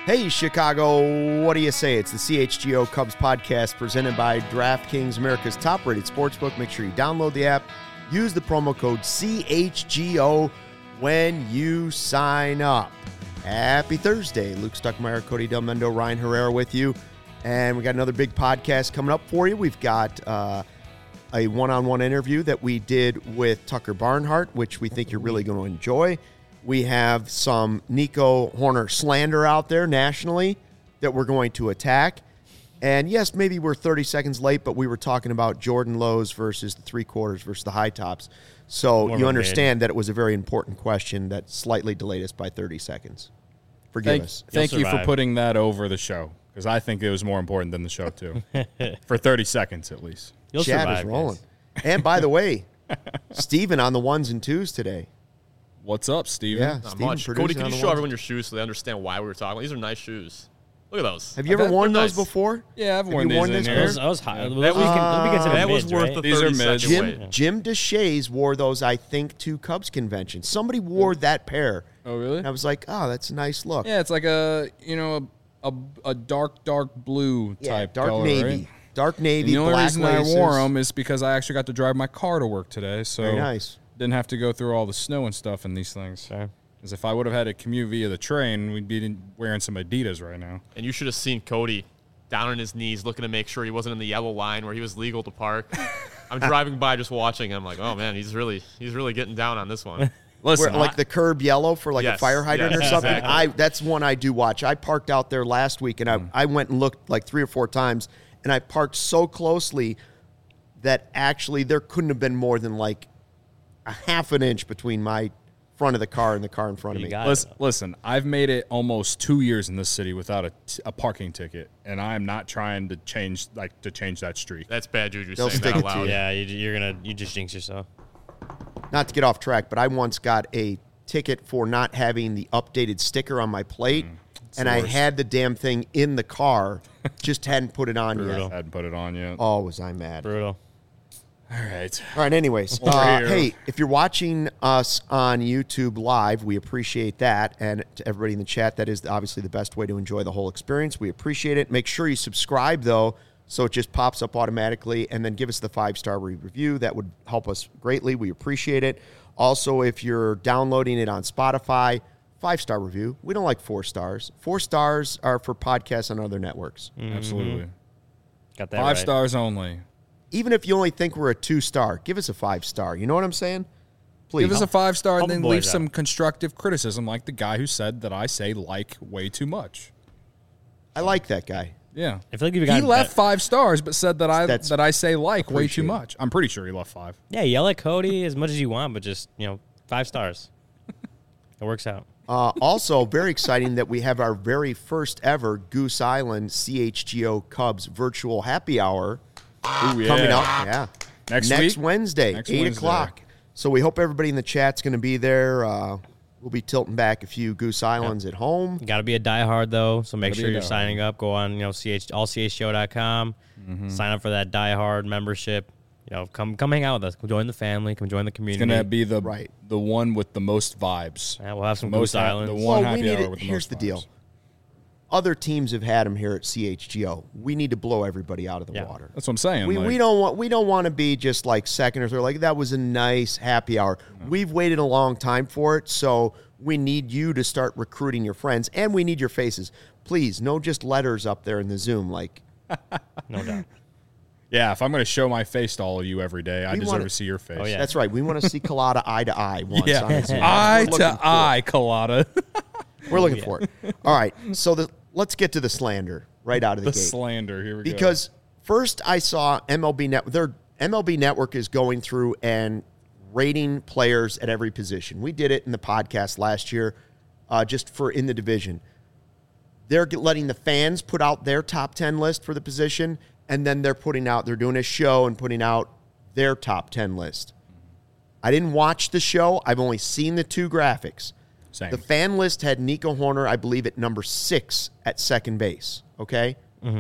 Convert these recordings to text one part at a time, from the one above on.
Hey, Chicago, what do you say? It's the CHGO Cubs podcast presented by DraftKings, America's top-rated sportsbook. Make sure you download the app. Use the promo code CHGO when you sign up. Happy Thursday. Luke Stuckmeyer, Cody Del Mendo, Ryan Herrera with you. And we got another big podcast coming up for you. We've got a one-on-one interview that we did with Tucker Barnhart, which we think you're really going to enjoy. We have some Nico Hoerner slander out there nationally that we're going to attack. And yes, maybe we're 30 seconds late, but we were talking about Jordan lows versus the three-quarters versus the high tops. So you understand that it was a very important question that slightly delayed us by 30 seconds. Forgive us. Thank you for putting that over the show, because I think it was more important than the show, too. For 30 seconds, at least. Chat is rolling. And by the way, Steven on the ones and twos today. What's up, Steven? Yeah, not much. Cody, can you show everyone your shoes so they understand why we were talking? These are nice shoes. Look at those. Have you ever worn those before? Yeah, I've worn these in here. That was high. That was worth the 30 second wait. Jim Deshaies wore those, I think, to Cubs convention. Somebody wore that pair. Oh, really? And I was like, oh, that's a nice look. Yeah, it's like a dark blue type dark color, navy. right? Dark navy, the only black reason laces. I wore them is because I actually got to drive my car to work today, so very nice. Didn't have to go through all the snow and stuff in these things. Because if I would have had to commute via the train, we'd be wearing some Adidas right now. And you should have seen Cody down on his knees looking to make sure he wasn't in the yellow line where he was legal to park. I'm driving by just watching. I'm like, oh, man, he's really getting down on this one. Listen, like the curb yellow for like a fire hydrant or something. Exactly. That's one I do watch. I parked out there last week, and I went and looked like 3 or 4 times, and I parked so closely that actually there couldn't have been more than like a half an inch between my front of the car and the car in front of me. Listen, I've made it almost 2 years in this city without a parking ticket, and I'm not trying to change that streak. That's bad juju They'll saying stick that it out to loud. Yeah, you just jinx yourself. Not to get off track, but I once got a ticket for not having the updated sticker on my plate, and I had the damn thing in the car, just hadn't put it on yet. Hadn't put it on yet. Oh, was I mad. Brutal. All right. Anyways, hey, if you're watching us on YouTube Live, we appreciate that. And to everybody in the chat, that is obviously the best way to enjoy the whole experience. We appreciate it. Make sure you subscribe, though, so it just pops up automatically. And then give us the 5-star review. That would help us greatly. We appreciate it. Also, if you're downloading it on Spotify, 5-star review. We don't like 4 stars. 4 stars are for podcasts on other networks. Absolutely. Got that 5 right. stars only. Even if you only think we're a 2-star, give us a 5-star. You know what I'm saying? Please. Give us a 5-star and help then the leave boys some out. constructive criticism like the guy who said that I say like way too much. I like that guy. Yeah. I feel like He left 5 stars but said that That's I say like way too appreciated. much. I'm pretty sure he left 5. Yeah, yell at Cody as much as you want, but just 5 stars. It works out. Also, very exciting that we have our very first ever Goose Island CHGO Cubs virtual happy hour coming up. Yeah. Next Wednesday, 8 o'clock. So we hope everybody in the chat's going to be there. We'll be tilting back a few Goose Islands at home. You got to be a diehard, though, so make Gotta sure be a you're diehard. signing up. Go on, allchgo.com. Sign up for that diehard membership. Come hang out with us. Come join the family. Come join the community. It's going to be the Right. the one with the most vibes. Yeah, we'll have some Most Goose Islands. the one Well, we happy need hour it. with the Here's most the vibes. deal. Other teams have had them here at CHGO. We need to blow everybody out of the water. That's what I'm saying. We don't want to be just like second or third. Like that was a nice happy hour. We've waited a long time for it, so we need you to start recruiting your friends, and we need your faces. Please, no just letters up there in the Zoom. Like, No doubt. Yeah, if I'm going to show my face to all of you every day, I We deserve wanna- to see your face. Oh, yeah. that's right. We want to see Collada eye to eye once on a Zoom. Eye We're looking to eye, Colada. We're looking for it. All right, so let's get to the slander right out of the The gate. slander. Here we go. Because first I saw MLB Network. Their MLB Network is going through and rating players at every position. We did it in the podcast last year, just for in the division. They're letting the fans put out their top 10 list for the position, and then they're doing a show and putting out their top 10 list. I didn't watch the show. I've only seen the 2 graphics. Same. The fan list had Nico Hoerner, I believe, at number 6 at second base. Okay? Mm-hmm.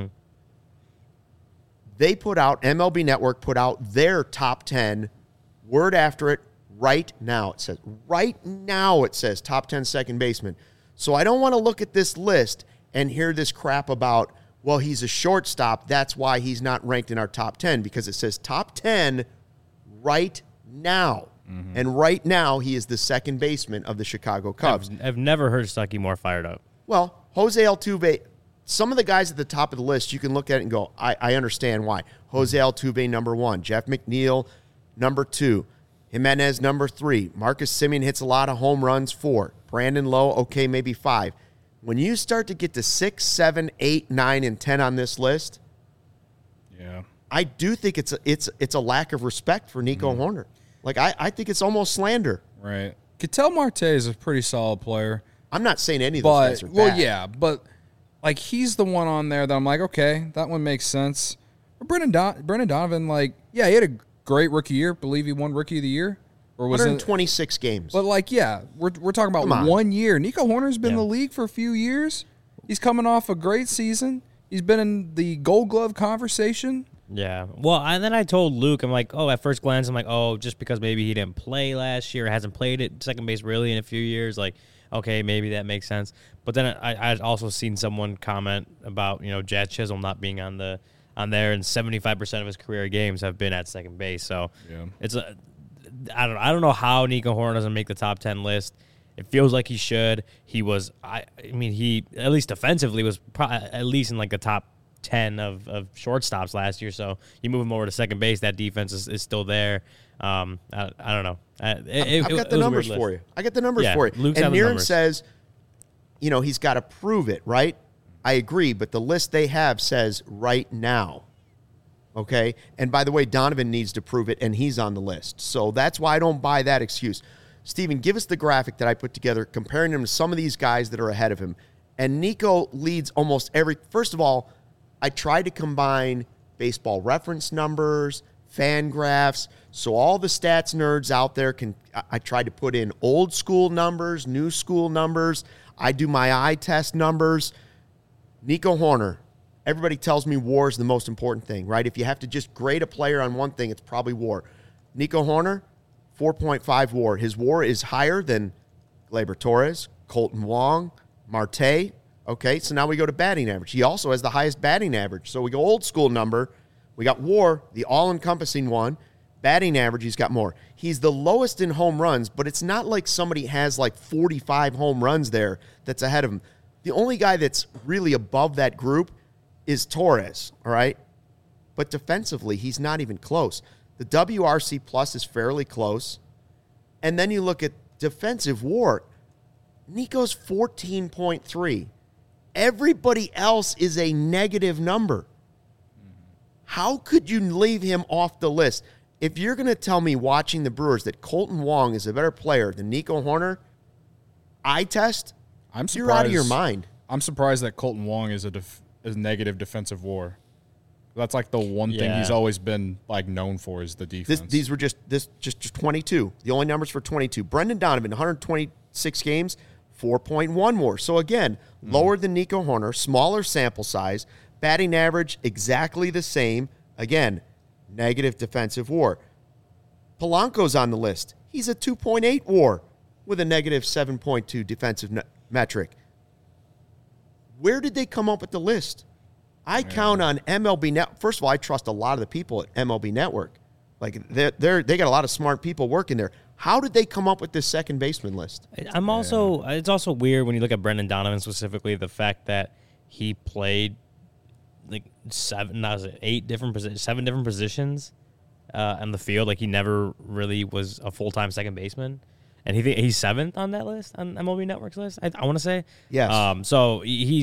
MLB Network put out their top 10, word after it, right now. It says top 10 second baseman. So I don't want to look at this list and hear this crap about, well, he's a shortstop, that's why he's not ranked in our top 10, because it says top 10 right now. And right now, he is the second baseman of the Chicago Cubs. I've never heard Stuckey more fired up. Well, Jose Altuve, some of the guys at the top of the list, you can look at it and go, I understand why. Jose Altuve, number 1. Jeff McNeil, number 2. Jimenez, number 3. Marcus Semien hits a lot of home runs, 4. Brandon Lowe, okay, maybe 5. When you start to get to 6, 7, 8, 9, and 10 on this list, Yeah. I do think it's a lack of respect for Nico Horner. Like, I think it's almost slander. Right. Ketel Marte is a pretty solid player. I'm not saying any of those guys are bad. But like he's the one on there that I'm like, okay, that one makes sense. But Brendan Donovan, like, yeah, he had a great rookie year. Believe he won Rookie of the Year, or was 126 games. But like, yeah, we're talking about 1 year. Nico Horner's been in the league for a few years. He's coming off a great season. He's been in the Gold Glove conversation. Yeah. Well, and then I told Luke, I'm like, at first glance, I'm like, just because maybe he didn't play last year, hasn't played at second base really in a few years, like, okay, maybe that makes sense. But then I'd also seen someone comment about, Jazz Chisholm not being on there, and 75% of his career games have been at second base. So it's I don't know how Nico Horner doesn't make the top 10 list. It feels like he should. He was, he at least defensively was at least in like the top 10 of shortstops last year. So you move him over to second base, that defense is still there. I don't know. I've got the numbers for you. I got the numbers for you. Luke's and Niren says, he's got to prove it, right? I agree, but the list they have says right now. Okay? And by the way, Donovan needs to prove it, and he's on the list. So that's why I don't buy that excuse. Steven, give us the graphic that I put together comparing him to some of these guys that are ahead of him. And Nico leads almost every – first of all, I tried to combine baseball reference numbers, fan graphs, so all the stats nerds out there can – I tried to put in old school numbers, new school numbers. I do my eye test numbers. Nico Horner, everybody tells me WAR is the most important thing, right? If you have to just grade a player on one thing, it's probably WAR. Nico Horner, 4.5 WAR. His WAR is higher than Gleyber Torres, Colton Wong, Marte. Okay, so now we go to batting average. He also has the highest batting average. So we go old school number. We got WAR, the all-encompassing one. Batting average, he's got more. He's the lowest in home runs, but it's not like somebody has like 45 home runs there that's ahead of him. The only guy that's really above that group is Torres, all right? But defensively, he's not even close. The WRC plus is fairly close. And then you look at defensive WAR. Nico's 14.3. Everybody else is a negative number. How could you leave him off the list? If you're going to tell me watching the Brewers that Colton Wong is a better player than Nico Horner, eye test, you're out of your mind. I'm surprised that Colton Wong is a negative defensive WAR. That's like the one thing he's always been like known for is the defense. These were just 22. The only numbers for 22. Brendan Donovan, 126 games, 4.1 WAR. So again, lower than Nico Horner, smaller sample size, batting average exactly the same. Again, negative defensive WAR. Polanco's on the list. He's a 2.8 WAR with a negative 7.2 defensive metric. Where did they come up with the list? I count on MLB Net. First of all, I trust a lot of the people at MLB Network. Like they got a lot of smart people working there. How did they come up with this second baseman list? It's also weird when you look at Brendan Donovan specifically, the fact that he played like 7 different positions on the field. Like he never really was a full-time second baseman. And he's 7th on that list, on MLB Network's list, I want to say. Yes. So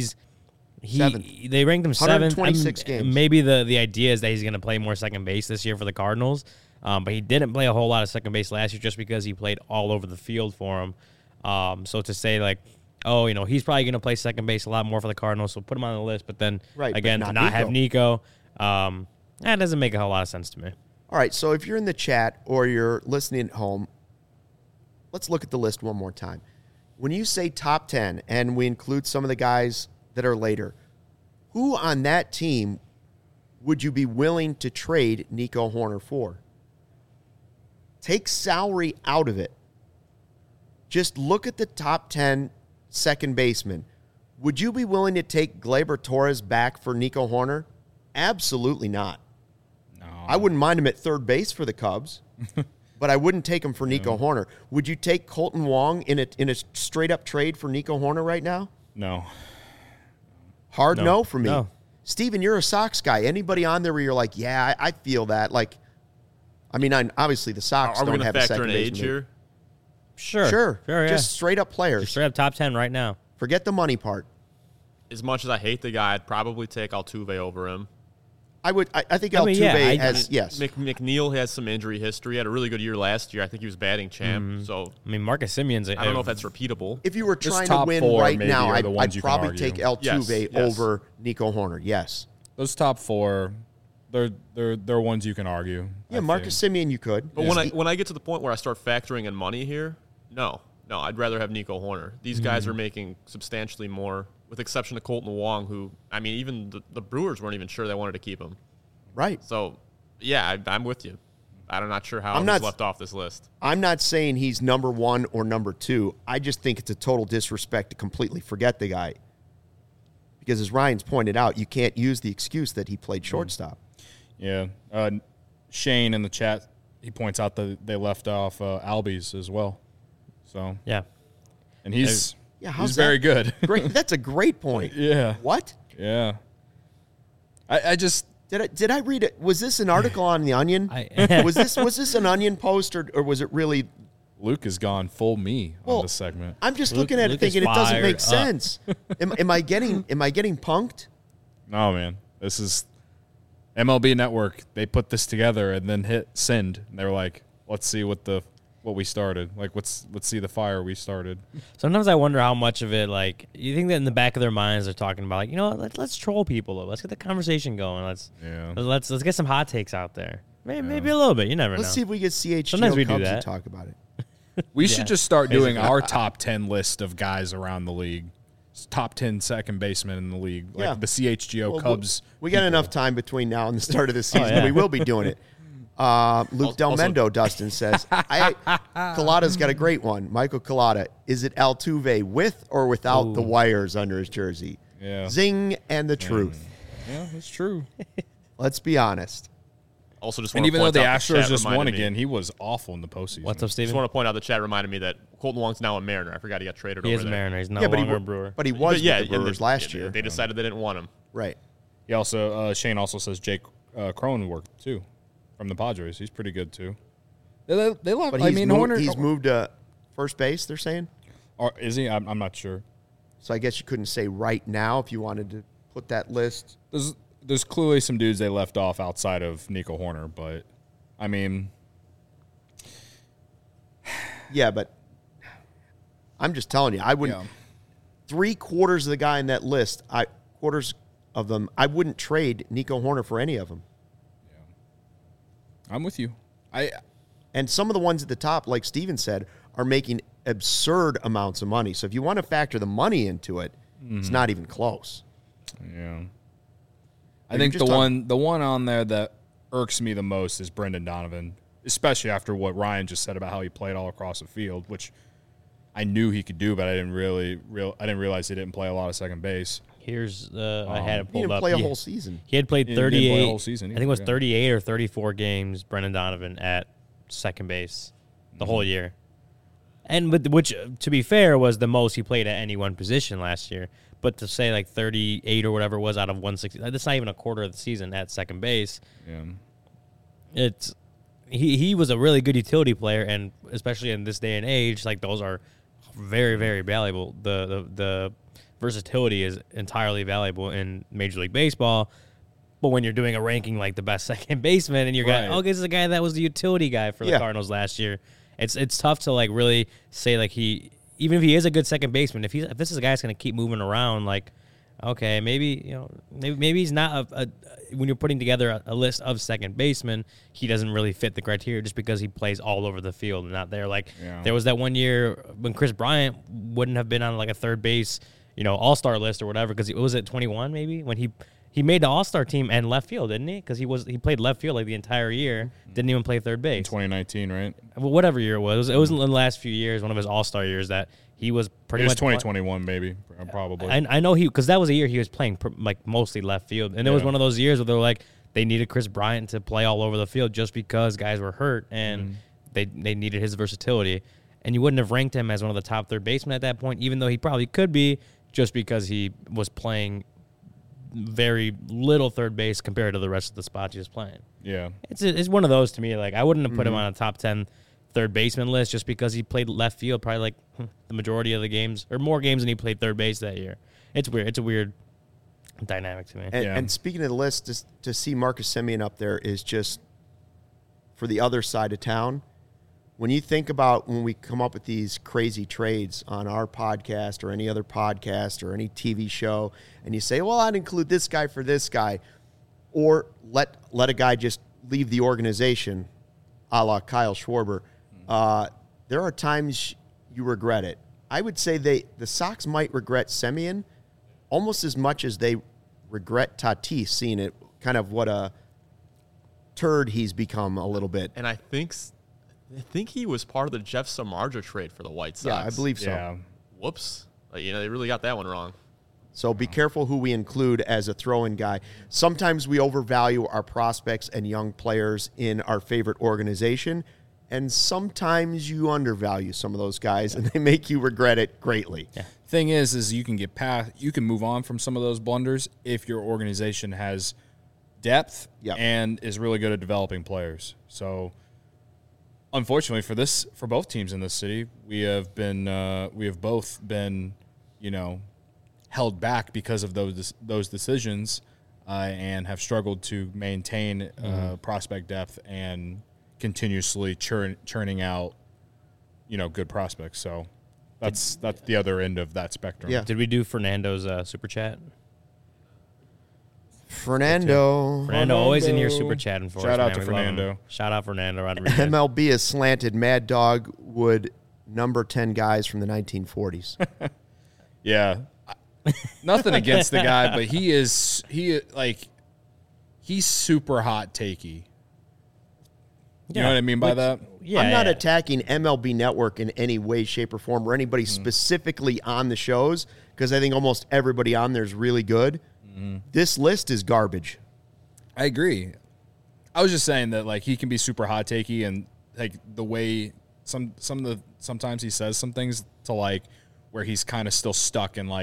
they ranked him 7th. 126 games. Maybe the idea is that he's going to play more second base this year for the Cardinals. But he didn't play a whole lot of second base last year just because he played all over the field for him. So to say like, he's probably going to play second base a lot more for the Cardinals, so put him on the list. But then, again, to not have Nico, that doesn't make a whole lot of sense to me. All right, so if you're in the chat or you're listening at home, let's look at the list one more time. When you say top 10 and we include some of the guys that are later, who on that team would you be willing to trade Nico Horner for? Take salary out of it. Just look at the top 10 second basemen. Would you be willing to take Gleyber Torres back for Nico Horner? Absolutely not. No. I wouldn't mind him at third base for the Cubs, but I wouldn't take him for Nico Horner. Would you take Colton Wong in a straight-up trade for Nico Horner right now? No. Hard no for me. No. Steven, you're a Sox guy. Anybody on there where you're like, yeah, I feel that. Like, I mean, obviously the Sox Are we don't going have to a factor second in age baseman. here? Sure, yeah. Just straight-up players. Just straight up top 10 right now. Forget the money part. As much as I hate the guy, I'd probably take Altuve over him. I think I mean, yeah, Altuve I- has, yes. McNeil has some injury history. He had a really good year last year. I think he was batting champ. So I mean, Marcus Simeon's. I don't know if that's repeatable. If you were Just trying to top win four right maybe now, are the ones I'd you can probably argue. take Altuve Yes. over Nico Horner. Yes. Those top 4, they're ones you can argue. Yeah, I Marcus think. Simeon, you could. But when I get to the point where I start factoring in money here, no, I'd rather have Nico Horner. These guys are making substantially more, with exception of Colton Wong, who, I mean, even the Brewers weren't even sure they wanted to keep him. Right. So, yeah, I'm with you. I'm not sure how I'm he's not- left off this list. I'm not saying he's number 1 or number 2. I just think it's a total disrespect to completely forget the guy. Because as Ryan's pointed out, you can't use the excuse that he played shortstop. Yeah. Shane in the chat, he points out that they left off Albies as well. So, Yeah. and he's how's he's very that? good. Great. That's a great point. Yeah. What? Yeah. I just Did I read it? Was this an article on the Onion? was this an Onion post or was it really? Luke has gone full me Well, on this segment. I'm just Luke- looking at it Luke is thinking it doesn't make fired up. sense. Am I getting punked? No, man. This is MLB Network. They put this together and then hit send. And they were like, let's see what we started. Like, let's see the fire we started. Sometimes I wonder how much of it, like, you think that in the back of their minds they're talking about, like, you know what, let's troll people. Let's get the conversation going. Let's get some hot takes out there. Maybe a little bit. You never Let's know. see if we get CHGO Sometimes we do Cubs to that. talk about it. We should just start doing our top 10 list of guys around the league. Top 10 second basemen in the league. Like Yeah. the CHGO Well, Cubs. We got enough time between now and the start of the season. yeah. We will be doing it. Luke Del Also- Mendo, Dustin says, Collada's got a great one. Michael Collada, is it Altuve with or without the wires under his jersey? Yeah. Zing and the truth. Yeah, that's true. Let's be honest. Also, just And want to even though point the out Astros chat just won reminded me- again, he was awful in the postseason. What's up, Just Steven? want to point out the chat reminded me that Colton Wong's now a Mariner. I forgot he got traded He over is a there. Mariner. He's no Yeah, but longer a Brewer. But he was yeah, with the and Brewers they- last yeah, year. They decided they didn't want him. Right. He also Shane also says Jake Cronenworth too, from the Padres. He's pretty good too. They love. But I mean, Horner. he's moved to first base, they're saying. Or is he? I'm not sure. So I guess you couldn't say right now if you wanted to put that list. There's clearly some dudes they left off outside of Nico Horner, but I mean, Yeah, but I'm just telling you, I wouldn't. Yeah. 3/4 of the guy in that list, quarters of them, I wouldn't trade Nico Horner for any of them. I'm with you. And some of the ones at the top, like Steven said, are making absurd amounts of money. So if you want to factor the money into it, it's not even close. Yeah. I You're think just the one on there that irks me the most is Brendan Donovan, especially after what Ryan just said about how he played all across the field, which I knew he could do, but I didn't realize he didn't play a lot of second base. Here's I had it He pulled didn't up. play a whole season. He had played He didn't 38. play a whole season I think it was either, yeah. 38 or 34 games. Brendan Donovan at second base the whole year, and which, to be fair, was the most he played at any one position last year. But to say like 38 or whatever it was out of 160, that's not even a quarter of the season at second base. Yeah. He was a really good utility player, and especially in this day and age, like those are very, very valuable. The versatility is entirely valuable in Major League Baseball. But when you're doing a ranking like the best second baseman, and you're Right. going, this is the guy that was the utility guy for the Yeah. Cardinals last year, it's tough to like really say like even if he is a good second baseman, if this is a guy that's going to keep moving around, like okay, maybe maybe he's not when you're putting together a list of second basemen, he doesn't really fit the criteria just because he plays all over the field and not there. Like there was that one year when Chris Bryant wouldn't have been on like a third base, all-star list or whatever, because it was at 21 maybe when he He made the All-Star team and left field, didn't he? Because he played left field like the entire year. Didn't even play third base. 2019, right? Well, whatever year it was. It was in the last few years, one of his All-Star years that he was pretty It was much 2021, maybe, probably. I know because that was a year he was playing like mostly left field, and it was Yeah. one of those years where they were like they needed Chris Bryant to play all over the field just because guys were hurt and they needed his versatility. And you wouldn't have ranked him as one of the top third basemen at that point, even though he probably could be, just because he was playing very little third base compared to the rest of the spots he was playing. Yeah. It's one of those to me. Like I wouldn't have put him on a top 10 third baseman list just because he played left field probably like the majority of the games or more games than he played third base that year. It's weird. It's a weird dynamic to me. And speaking of the list, just to see Marcus Semien up there is just for the other side of town. When you think about when we come up with these crazy trades on our podcast or any other podcast or any TV show, and you say, well, I'd include this guy for this guy, or let a guy just leave the organization, a la Kyle Schwarber, there are times you regret it. I would say the Sox might regret Semien almost as much as they regret Tatis, seeing it kind of what a turd he's become a little bit. And I think he was part of the Jeff Samardzija trade for the White Sox. Yeah, I believe so. Yeah. Whoops. They really got that one wrong. So be careful who we include as a throw-in guy. Sometimes we overvalue our prospects and young players in our favorite organization, and sometimes you undervalue some of those guys, and they make you regret it greatly. Yeah. Thing is you can get past, you can move on from some of those blunders if your organization has depth and is really good at developing players. So, unfortunately for both teams in this city, we have both been, held back because of those decisions, and have struggled to maintain prospect depth and continuously churning out, good prospects. So that's the other end of that spectrum. Yeah. Did we do Fernando's super chat? Fernando always in here super chatting for us. Shout out man. to We love him. Fernando. Shout out Fernando Rodriguez. MLB is slanted. Mad Dog would number 10 guys from the 1940s. Yeah. Nothing against the guy, but he's super hot takey. You know what I mean by that? Yeah, I'm not attacking MLB Network in any way, shape, or form, or anybody specifically on the shows, because I think almost everybody on there is really good. This list is garbage. I agree. I was just saying that he can be super hot takey, and the way sometimes he says some things to where he's kind of still stuck in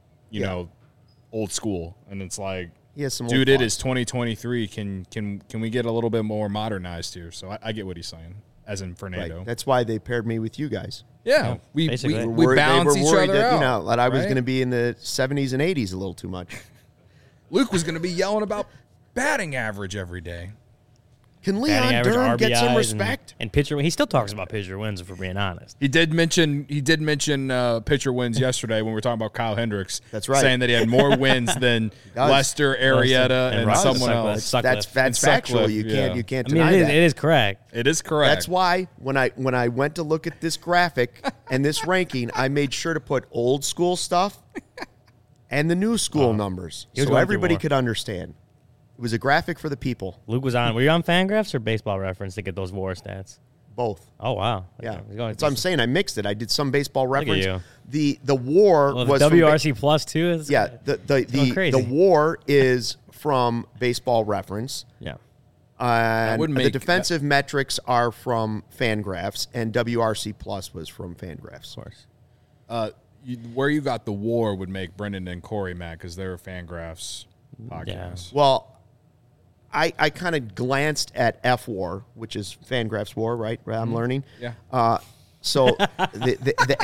old school, and it's He has some dude, old it is 2023. Can we get a little bit more modernized here? So I get what he's saying, as in Fernando. Right. That's why they paired me with you guys. Yeah, we basically. balance they were each worried other that, out. that I was right? going to be in the 70s and 80s a little too much. Luke was going to be yelling about batting average every day. Can Batting Leon average, Durham get some RBIs, respect? and pitcher. He still talks about pitcher wins, if we're being honest. He did mention pitcher wins yesterday when we were talking about Kyle Hendricks. That's right. Saying that he had more wins than does. Lester, Arrieta, and Ross. someone Sutcliffe. else. Sutcliffe. That's And factual. Sutcliffe, You can't I mean, deny that. it is correct. It is correct. That's why when I went to look at this graphic and this ranking, I made sure to put old school stuff and the new school numbers He was so going everybody through could understand. It was a graphic for the people. Luke was on. Were you on Fangraphs or Baseball Reference to get those WAR stats? Both. Oh wow. Yeah. He's going That's what I'm saying. I mixed it. I did some baseball at reference. you. The war Well, was the from WRC Plus too. Is yeah, going crazy. the war is from Baseball Reference. Yeah. And wouldn't the make- defensive metrics are from Fangraphs, and WRC Plus was from Fangraphs. Of course. where you got the war would make Brendan and Corey mad because they're Fangraphs podcasts. Well, I kind of glanced at F War, which is Fangraphs War, right? I'm learning. Yeah. So the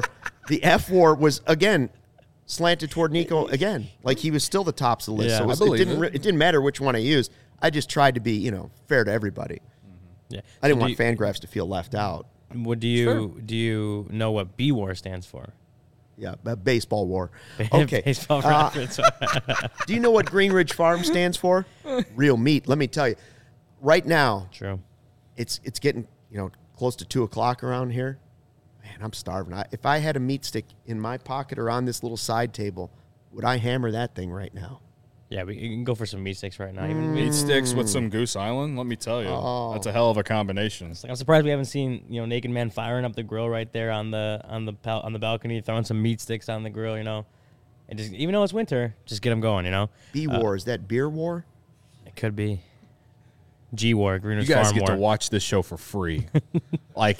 F War was again slanted toward Nico again. Like he was still the tops of the list. Yeah, So I it believe didn't it. it didn't matter which one I used. I just tried to be fair to everybody. Yeah. I didn't want Fangraphs to feel left out. Do you know what B War stands for? Yeah, baseball war. Okay. Baseball reference. Do you know what Green Ridge Farm stands for? Real meat. Let me tell you. Right now, True. it's getting close to 2:00 around here. Man, I'm starving. If I had a meat stick in my pocket or on this little side table, would I hammer that thing right now? Yeah, we can go for some meat sticks right now. Even Meat sticks with some Goose Island. Let me tell you, that's a hell of a combination. I'm surprised we haven't seen Naked Man firing up the grill right there on the balcony, throwing some meat sticks on the grill. And just even though it's winter, just get them going. B War, is that beer war? It could be. G War, Green Ridge You guys Farm get War. to watch this show for free. like,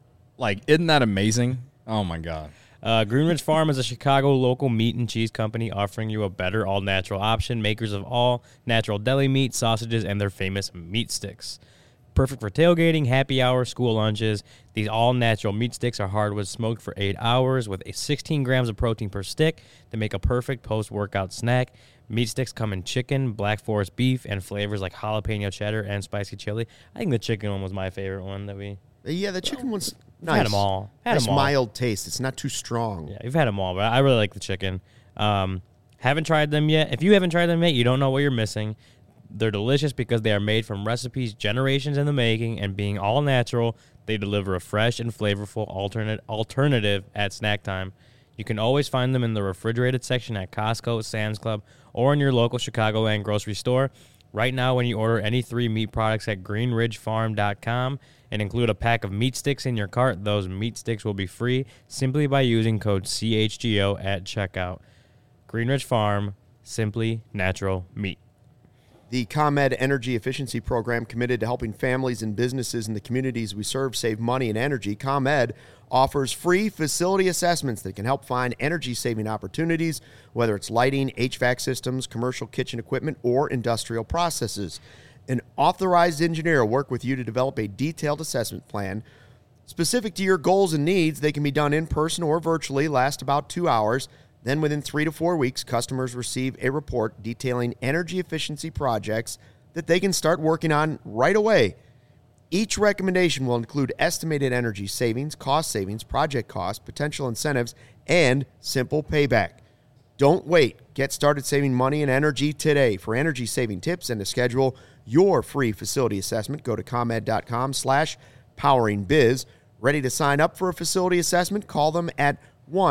isn't that amazing? Oh my God. Green Ridge Farm is a Chicago local meat and cheese company offering you a better all-natural option, makers of all natural deli meat, sausages, and their famous meat sticks. Perfect for tailgating, happy hour, school lunches. These all-natural meat sticks are hardwood smoked for 8 hours with 16 grams of protein per stick to make a perfect post-workout snack. Meat sticks come in chicken, black forest beef, and flavors like jalapeno cheddar and spicy chili. I think the chicken one was my favorite one that we... Yeah, the chicken one's nice. Had them all. Nice mild taste. It's not too strong. Yeah, you've had them all, but I really like the chicken. Haven't tried them yet. If you haven't tried them yet, you don't know what you're missing. They're delicious because they are made from recipes generations in the making, and being all natural, they deliver a fresh and flavorful alternative at snack time. You can always find them in the refrigerated section at Costco, Sam's Club, or in your local Chicagoland grocery store. Right now, when you order any 3 meat products at greenridgefarm.com and include a pack of meat sticks in your cart, those meat sticks will be free simply by using code CHGO at checkout. Green Ridge Farm, simply natural meat. The ComEd Energy Efficiency Program, committed to helping families and businesses in the communities we serve save money and energy. ComEd offers free facility assessments that can help find energy-saving opportunities, whether it's lighting, HVAC systems, commercial kitchen equipment, or industrial processes. An authorized engineer will work with you to develop a detailed assessment plan specific to your goals and needs. They can be done in person or virtually, last about 2 hours. Then within 3 to 4 weeks, customers receive a report detailing energy efficiency projects that they can start working on right away. Each recommendation will include estimated energy savings, cost savings, project costs, potential incentives, and simple payback. Don't wait. Get started saving money and energy today. For energy saving tips and to schedule your free facility assessment, go to ComEd.com/poweringbiz. Ready to sign up for a facility assessment? Call them at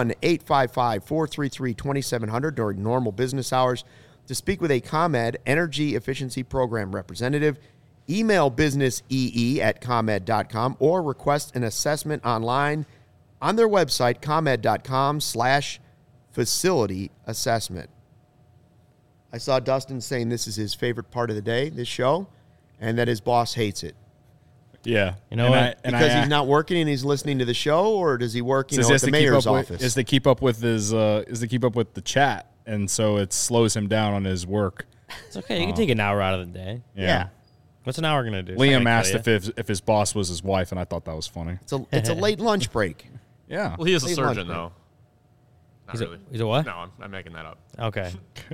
1-855-433-2700 during normal business hours to speak with a ComEd Energy Efficiency Program representative. Email businessee@comed.com or request an assessment online on their website, comed.com/facility assessment. I saw Dustin saying this is his favorite part of the day, this show, and that his boss hates it. Yeah. Because he's not working and he's listening to the show, or does he work at the mayor's office? Is to keep up with the chat, and so it slows him down on his work. It's okay. You can take an hour out of the day. Yeah. What's an hour going to do? Liam asked if his boss was his wife, and I thought that was funny. It's a late lunch break. Yeah. Well, he is a Late surgeon, lunch though. Not really. He's a what? No, I'm making that up. Okay.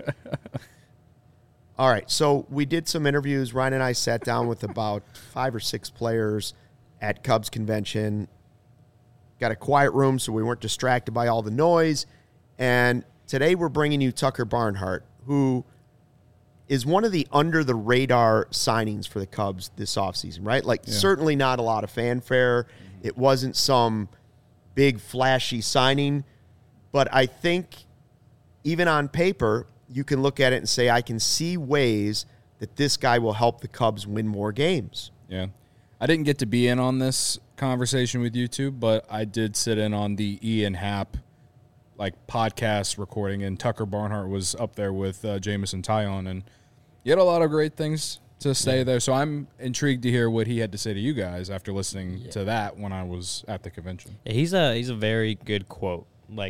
All right, so we did some interviews. Ryan and I sat down with about 5 or 6 players at Cubs convention. Got a quiet room so we weren't distracted by all the noise. And today we're bringing you Tucker Barnhart, who is one of the under-the-radar signings for the Cubs this offseason, right? Certainly not a lot of fanfare. It wasn't some big, flashy signing. But I think even on paper, you can look at it and say, I can see ways that this guy will help the Cubs win more games. Yeah. I didn't get to be in on this conversation with you two, but I did sit in on the Ian Happ podcast recording, and Tucker Barnhart was up there with Jameson Taillon, and he had a lot of great things to say there. So I'm intrigued to hear what he had to say to you guys after listening to that when I was at the convention. Yeah, he's a very good quote.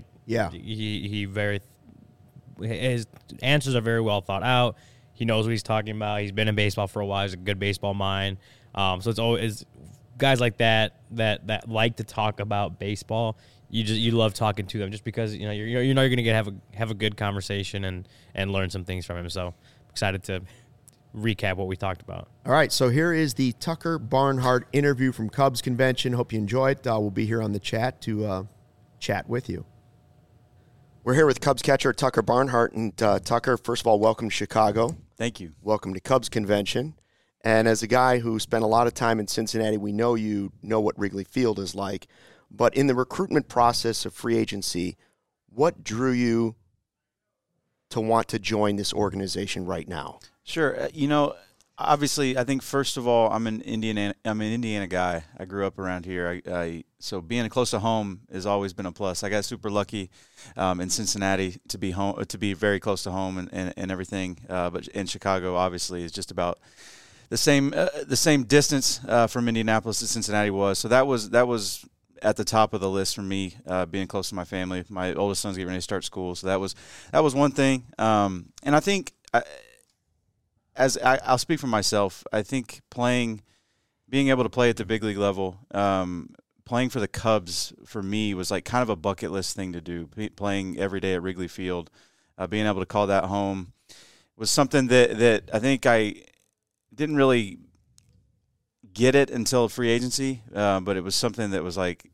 His answers are very well thought out. He knows what he's talking about. He's been in baseball for a while. He's a good baseball mind. So it's always guys like that like to talk about baseball. You love talking to them just because you're going to have a good conversation and learn some things from him. So I'm excited to recap what we talked about. All right, so here is the Tucker Barnhart interview from Cubs convention. Hope you enjoy it. We'll be here on the chat to chat with you. We're here with Cubs catcher Tucker Barnhart. And Tucker, first of all, welcome to Chicago. Thank you. Welcome to Cubs convention. And as a guy who spent a lot of time in Cincinnati, we know you know what Wrigley Field is like. But in the recruitment process of free agency, what drew you to want to join this organization right now? Sure. Obviously, I think first of all, I'm an Indiana guy. I grew up around here. So being close to home has always been a plus. I got super lucky in Cincinnati to be very close to home and everything. But in Chicago, obviously, is just about the same distance from Indianapolis to Cincinnati was. So that was at the top of the list for me, being close to my family. My oldest son's getting ready to start school, so that was one thing. And I think. I'll speak for myself. I think being able to play at the big league level, playing for the Cubs for me was like kind of a bucket list thing to do. Playing every day at Wrigley Field, being able to call that home was something that I think I didn't really get it until free agency, but it was something that was like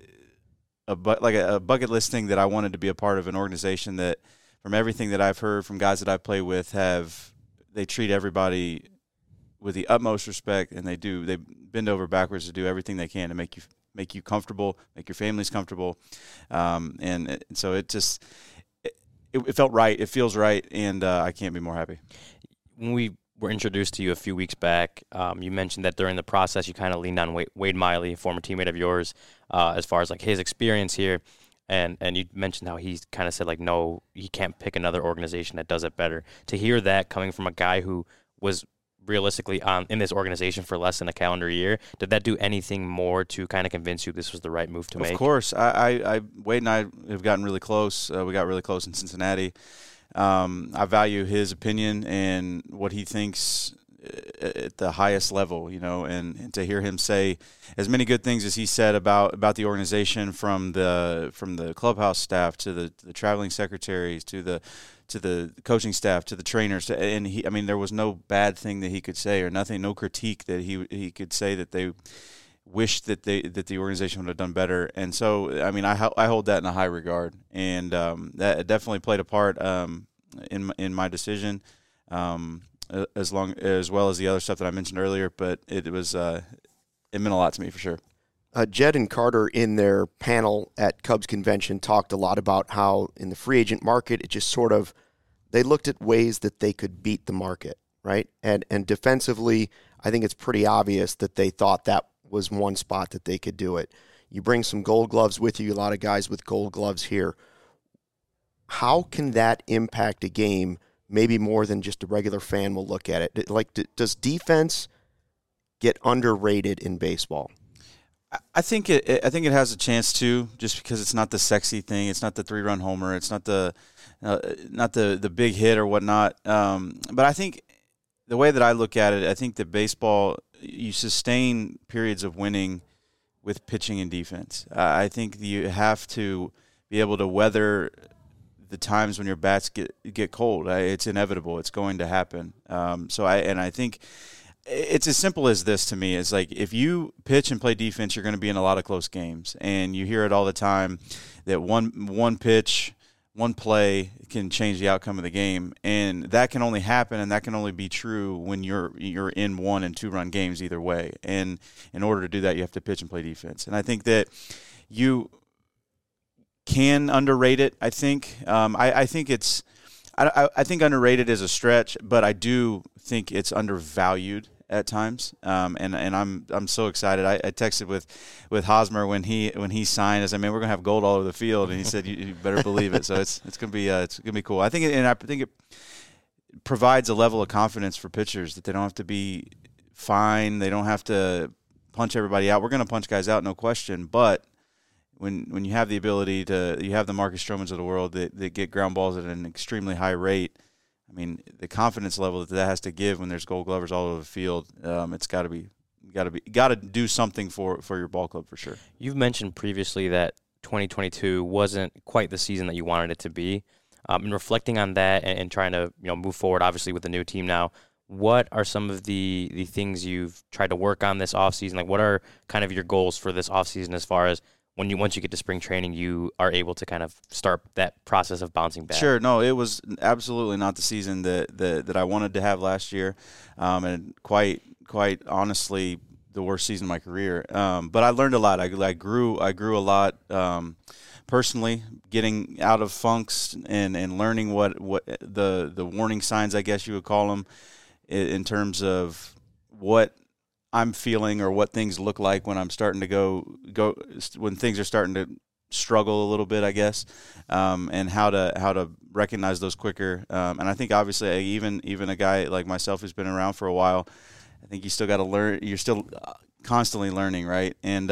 a bucket list thing that I wanted to be a part of an organization that, from everything that I've heard from guys that I've played with, they treat everybody with the utmost respect, and they bend over backwards to do everything they can to make you comfortable, make your families comfortable, and so it felt right. It feels right, and I can't be more happy. When we were introduced to you a few weeks back, you mentioned that during the process you kind of leaned on Wade Miley, a former teammate of yours, as far as like his experience here. And you mentioned how he kind of said, like, no, he can't pick another organization that does it better. To hear that coming from a guy who was realistically in this organization for less than a calendar year, did that do anything more to kind of convince you this was the right move to make? Of course. Wade and I have gotten really close. We got really close in Cincinnati. I value his opinion and what he thinks at the highest level, and to hear him say as many good things as he said about the organization, from the clubhouse staff to the traveling secretaries to the coaching staff to the trainers, and there was no bad thing that he could say, or nothing, no critique that he could say that they wished that the organization would have done better. And so I hold that in a high regard, and that definitely played a part in my decision. As well as the other stuff that I mentioned earlier, but it meant a lot to me for sure. Jed and Carter in their panel at Cubs convention talked a lot about how in the free agent market, it just sort of, they looked at ways that they could beat the market, right? And defensively, I think it's pretty obvious that they thought that was one spot that they could do it. You bring some Gold Gloves with you, a lot of guys with Gold Gloves here. How can that impact a game? Maybe more than just a regular fan will look at it. Like, does defense get underrated in baseball? I think it has a chance to, just because it's not the sexy thing. It's not the 3-run homer. It's not the big hit or whatnot. But I think the way that I look at it, I think that baseball, you sustain periods of winning with pitching and defense. I think you have to be able to weather the times when your bats get cold. It's inevitable. It's going to happen. I think it's as simple as this to me. It's like, if you pitch and play defense, you're going to be in a lot of close games. And you hear it all the time that one pitch, one play can change the outcome of the game. And that can only happen, and that can only be true when you're in 1- and 2-run games either way. And in order to do that, you have to pitch and play defense. And I think that you can underrate it. I think I think underrated is a stretch, but I do think it's undervalued at times. And I'm so excited. I texted with Hosmer when he signed. I said, "Man, we're gonna have gold all over the field," and he said, "You better believe it." So it's gonna be cool. I think it provides a level of confidence for pitchers that they don't have to be fine. They don't have to punch everybody out. We're gonna punch guys out, no question, but when you have the ability you have the Marcus Stromans of the world that get ground balls at an extremely high rate. I mean, the confidence level that has to give when there's Gold Glovers all over the field, it's got to do something for your ball club for sure. You've mentioned previously that 2022 wasn't quite the season that you wanted it to be. And reflecting on that and trying to move forward, obviously with the new team now, what are some of the things you've tried to work on this offseason? Like, what are kind of your goals for this offseason as far as once you get to spring training, you are able to kind of start that process of bouncing back? Sure. No, it was absolutely not the season that I wanted to have last year, and quite honestly, the worst season of my career. But I learned a lot. I grew a lot. personally, getting out of funks and learning what the warning signs, I guess you would call them, in terms of what I'm feeling or what things look like when I'm starting to go when things are starting to struggle a little bit, I guess, and how to recognize those quicker. And I think obviously even a guy like myself who's been around for a while, I think you still got to learn. You're still constantly learning, right? And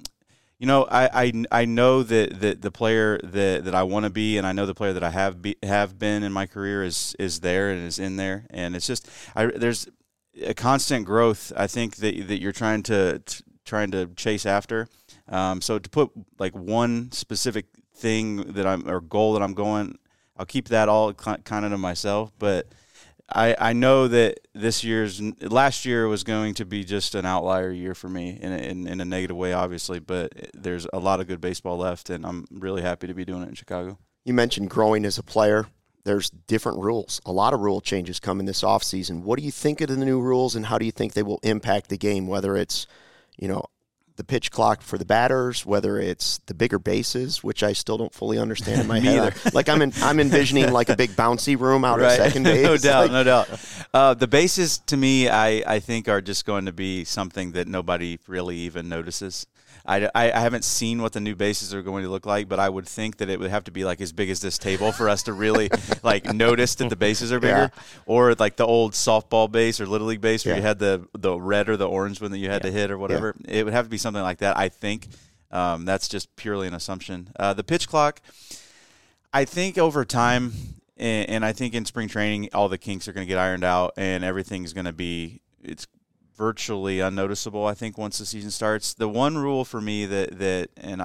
I know that the player that I want to be, and I know the player that I have been in my career is there and is in there, and it's just there's a constant growth. I think that you're trying to chase after. So to put like one specific thing or goal that I'm going, I'll keep that all kind of to myself, but. I know that last year was going to be just an outlier year for me in a negative way, obviously, but there's a lot of good baseball left, and I'm really happy to be doing it in Chicago. You mentioned growing as a player. There's different rules. A lot of rule changes coming this offseason. What do you think of the new rules, and how do you think they will impact the game, whether it's, the pitch clock for the batters, whether it's the bigger bases, which I still don't fully understand in my head. Like I'm envisioning like a big bouncy room out at second base. No doubt. The bases to me, I think are just going to be something that nobody really even notices. I haven't seen what the new bases are going to look like, but I would think that it would have to be like as big as this table for us to really like notice that the bases are bigger, or like the old softball base or little league base where you had the red or the orange one that you had to hit or whatever. It would have to be something like that. I think that's just purely an assumption. The pitch clock, I think over time, and I think in spring training, all the kinks are going to get ironed out and everything's going to be virtually unnoticeable, I think, once the season starts. The one rule for me that and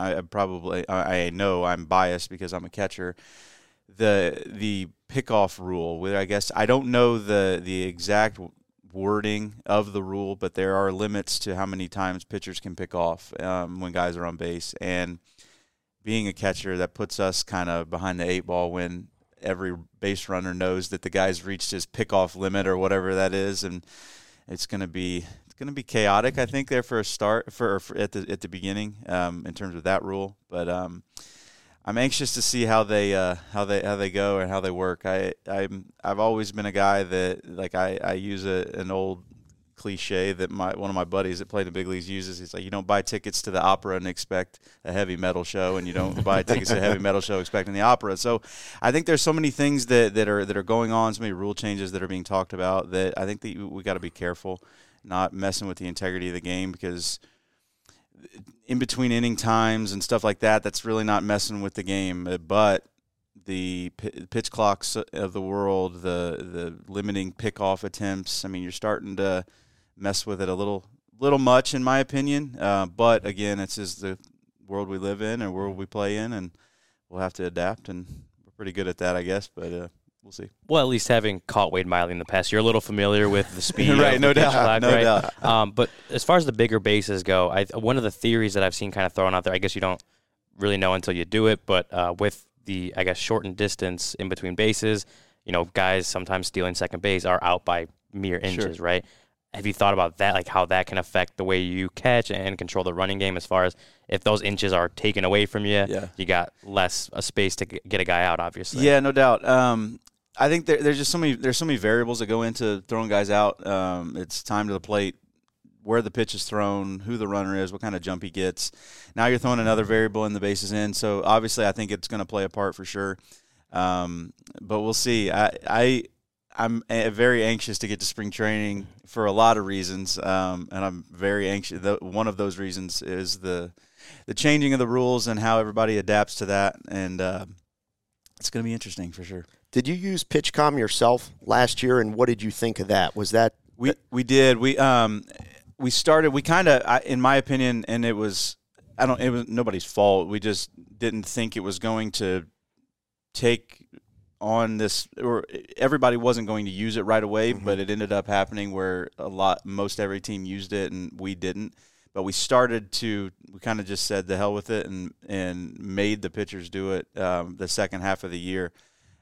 I know I'm biased because I'm a catcher, the pickoff rule, where I guess I don't know the exact wording of the rule, but there are limits to how many times pitchers can pick off when guys are on base. And being a catcher, that puts us kind of behind the eight ball when every base runner knows that the guy's reached his pickoff limit or whatever that is, and it's going to be chaotic, I think, there for a start for at the beginning in terms of that rule. But I'm anxious to see how they go and how they work. I've always been a guy that like I use an old cliche that one of my buddies that played in the big leagues uses. He's like, you don't buy tickets to the opera and expect a heavy metal show, and you don't buy tickets to a heavy metal show expecting the opera. So I think there's so many things that are going on, so many rule changes that are being talked about, that I think that we got to be careful not messing with the integrity of the game, because in between inning times and stuff like that, that's really not messing with the game. But the pitch clocks of the world, the limiting pickoff attempts, I mean, you're starting to mess with it a little much, in my opinion. But again, it's just the world we live in and world we play in, and we'll have to adapt, and we're pretty good at that, I guess. But we'll see. Well, at least having caught Wade Miley in the past, you're a little familiar with the speed. Right, no doubt. Clock, no doubt. But as far as the bigger bases go, one of the theories that I've seen kind of thrown out there, I guess you don't really know until you do it, but with the, I guess, shortened distance in between bases, guys sometimes stealing second base are out by mere inches, right? Have you thought about that, like how that can affect the way you catch and control the running game, as far as if those inches are taken away from you, you got less space to get a guy out, obviously? Yeah, no doubt. I think there's just so many variables that go into throwing guys out. It's time to the plate, where the pitch is thrown, who the runner is, what kind of jump he gets. Now you're throwing another variable in the bases in. So obviously I think it's going to play a part for sure. But we'll see. I'm very anxious to get to spring training for a lot of reasons, and I'm very anxious. One of those reasons is the changing of the rules and how everybody adapts to that, and it's going to be interesting for sure. Did you use PitchCom yourself last year, and what did you think of that? Was that we did we started, we kind of, in my opinion, and it was nobody's fault. We just didn't think it was going to take on this, or everybody wasn't going to use it right away, but it ended up happening where most every team used it and we didn't. But we kind of just said the hell with it and made the pitchers do it the second half of the year.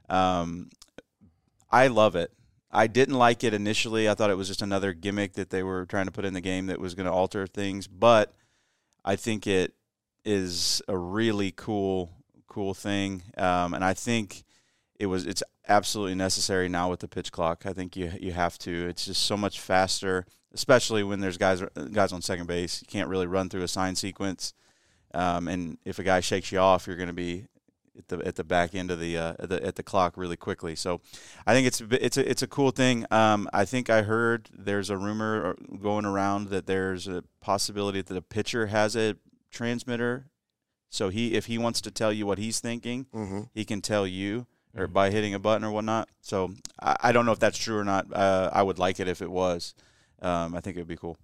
I love it. I didn't like it initially. I thought it was just another gimmick that they were trying to put in the game that was going to alter things. But I think it is a really cool cool thing, and I think it's absolutely necessary now with the pitch clock. I think you have to. It's just so much faster, especially when there's guys on second base. You can't really run through a sign sequence, and if a guy shakes you off, you're going to be at the back end of the clock really quickly. So I think it's a cool thing. I think I heard there's a rumor going around that there's a possibility that the pitcher has a transmitter. So if he wants to tell you what he's thinking, he can tell you or by hitting a button or whatnot. So I don't know if that's true or not. I would like it if it was. I think it would be cool.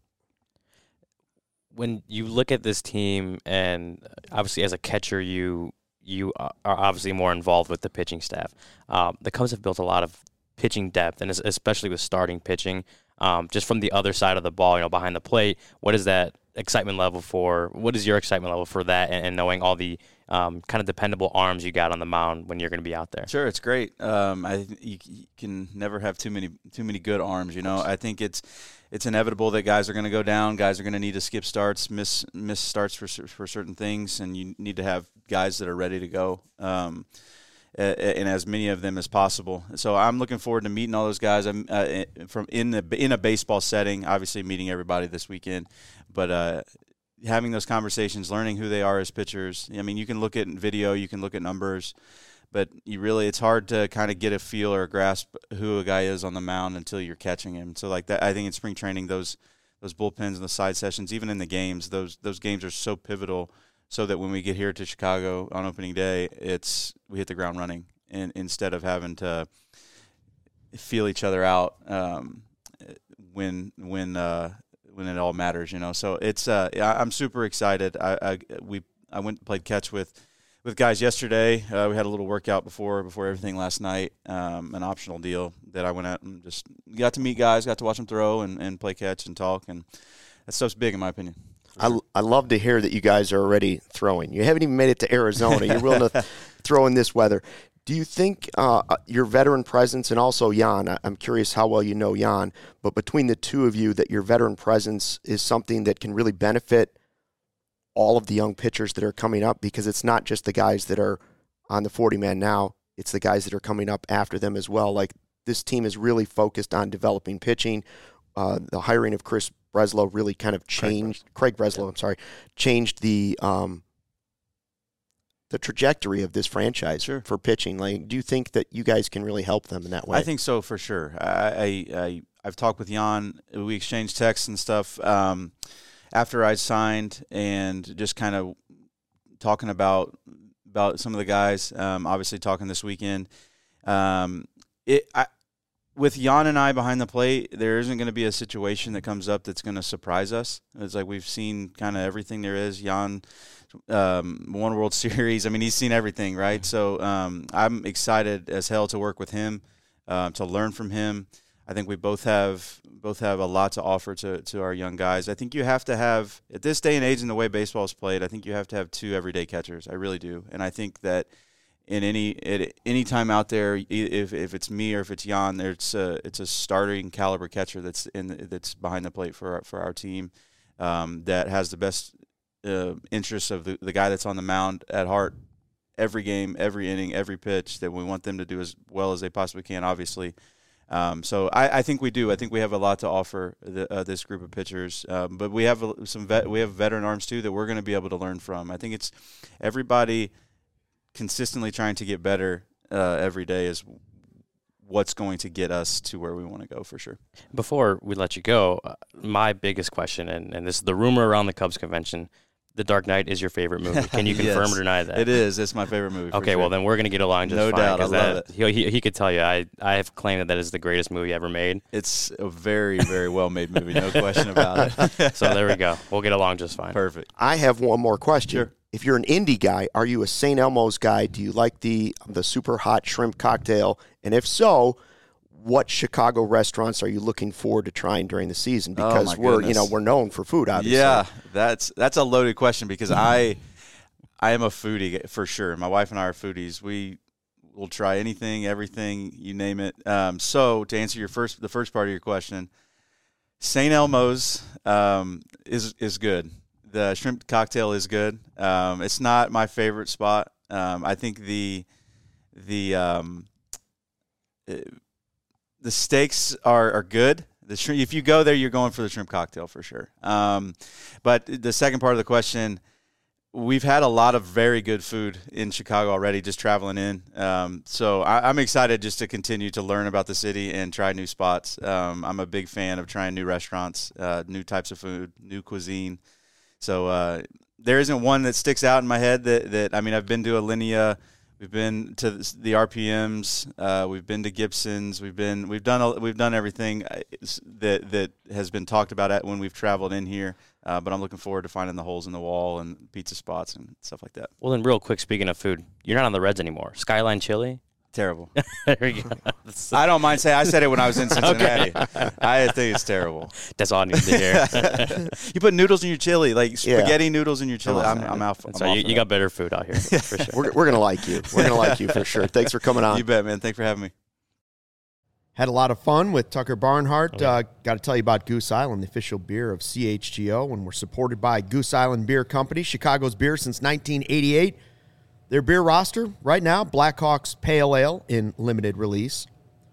When you look at this team, and obviously as a catcher, you are obviously more involved with the pitching staff. The Cubs have built a lot of pitching depth, and especially with starting pitching, just from the other side of the ball, behind the plate. What is that excitement level for? What is your excitement level for that, and knowing all the kind of dependable arms you got on the mound when you're going to be out there? Sure, it's great. You can never have too many good arms. I think it's inevitable that guys are going to go down. Guys are going to need to skip starts, miss starts for certain things, and you need to have guys that are ready to go, and as many of them as possible. So I'm looking forward to meeting all those guys. I'm in a baseball setting, obviously meeting everybody this weekend, but having those conversations, learning who they are as pitchers. I mean, you can look at video, you can look at numbers, but it's hard to kind of get a feel or a grasp who a guy is on the mound until you're catching him. So like that, I think in spring training, those bullpens and the side sessions, even in the games, those games are so pivotal, so that when we get here to Chicago on opening day, we hit the ground running, and instead of having to feel each other out when it all matters, So it's I'm super excited. I went and played catch with guys yesterday. We had a little workout before everything last night, an optional deal that I went out and just got to meet guys, got to watch them throw and play catch and talk, and that stuff's big in my opinion. I love to hear that you guys are already throwing. You haven't even made it to Arizona. You're willing to throw in this weather. Do you think your veteran presence, and also Jan, I'm curious how well you know Jan, but between the two of you, that your veteran presence is something that can really benefit all of the young pitchers that are coming up? Because it's not just the guys that are on the 40-man now, it's the guys that are coming up after them as well. Like, this team is really focused on developing pitching. The hiring of Craig Breslow really kind of changed changed the trajectory of this franchise for pitching. Like, do you think that you guys can really help them in that way? I think so, for sure. I've talked with Jan. We exchanged texts and stuff after I signed, and just kind of talking about some of the guys. Obviously, talking this weekend. With Jan and I behind the plate, there isn't going to be a situation that comes up that's going to surprise us. It's like we've seen kind of everything there is. Jan won World Series. I mean, he's seen everything, right? So I'm excited as hell to work with him, to learn from him. I think we both have a lot to offer to our young guys. I think you have to have, at this day and age and the way baseball is played, I think you have to have two everyday catchers. I really do. And I think that at any time out there, if it's me or if it's Jan, it's a starting caliber catcher that's behind the plate for our team, that has the best interests of the guy that's on the mound at heart. Every game, every inning, every pitch, that we want them to do as well as they possibly can, obviously. So I think we do. I think we have a lot to offer this group of pitchers, but we have veteran arms too that we're going to be able to learn from. I think it's everybody consistently trying to get better every day is what's going to get us to where we want to go, for sure. Before we let you go, my biggest question, and this is the rumor around the Cubs convention, The Dark Knight is your favorite movie. Can you confirm or deny that? It is. It's my favorite movie. Okay, well, then we're going to get along just fine. No doubt. I love it. He could tell you. I have claimed that is the greatest movie ever made. It's a very, very well-made movie. No question about it. So there we go. We'll get along just fine. Perfect. I have one more question. Sure. If you're an indie guy, are you a St. Elmo's guy? Do you like the super hot shrimp cocktail? And if so, what Chicago restaurants are you looking forward to trying during the season? Because we're known for food, obviously. Yeah, that's a loaded question, because I am a foodie for sure. My wife and I are foodies. We will try anything, everything, you name it. So to answer the first part of your question, St. Elmo's is good. The shrimp cocktail is good. It's not my favorite spot. I think the steaks are good. The shrimp, if you go there, you're going for the shrimp cocktail for sure. But the second part of the question, we've had a lot of very good food in Chicago already, just traveling in. So I'm excited just to continue to learn about the city and try new spots. I'm a big fan of trying new restaurants, new types of food, new cuisine. So there isn't one that sticks out in my head that I mean, I've been to Alinea. We've been to the RPMs. We've been to Gibson's. We've done everything that has been talked about when we've traveled in here. But I'm looking forward to finding the holes in the wall and pizza spots and stuff like that. Well, then, real quick, speaking of food, you're not on the Reds anymore. Skyline Chili. Terrible. There we go. I don't mind saying I said it when I was in Cincinnati. I think it's terrible. That's all I need to hear. You put noodles in your chili, like spaghetti noodles in your chili. I'm out. So you got better food out here for sure. We're gonna like you. We're gonna like you for sure. Thanks for coming on. You bet, man. Thanks for having me. Had a lot of fun with Tucker Barnhart. Got to tell you about Goose Island, the official beer of CHGO, and we're supported by Goose Island Beer Company, Chicago's beer since 1988. Their beer roster right now, Blackhawks Pale Ale in limited release.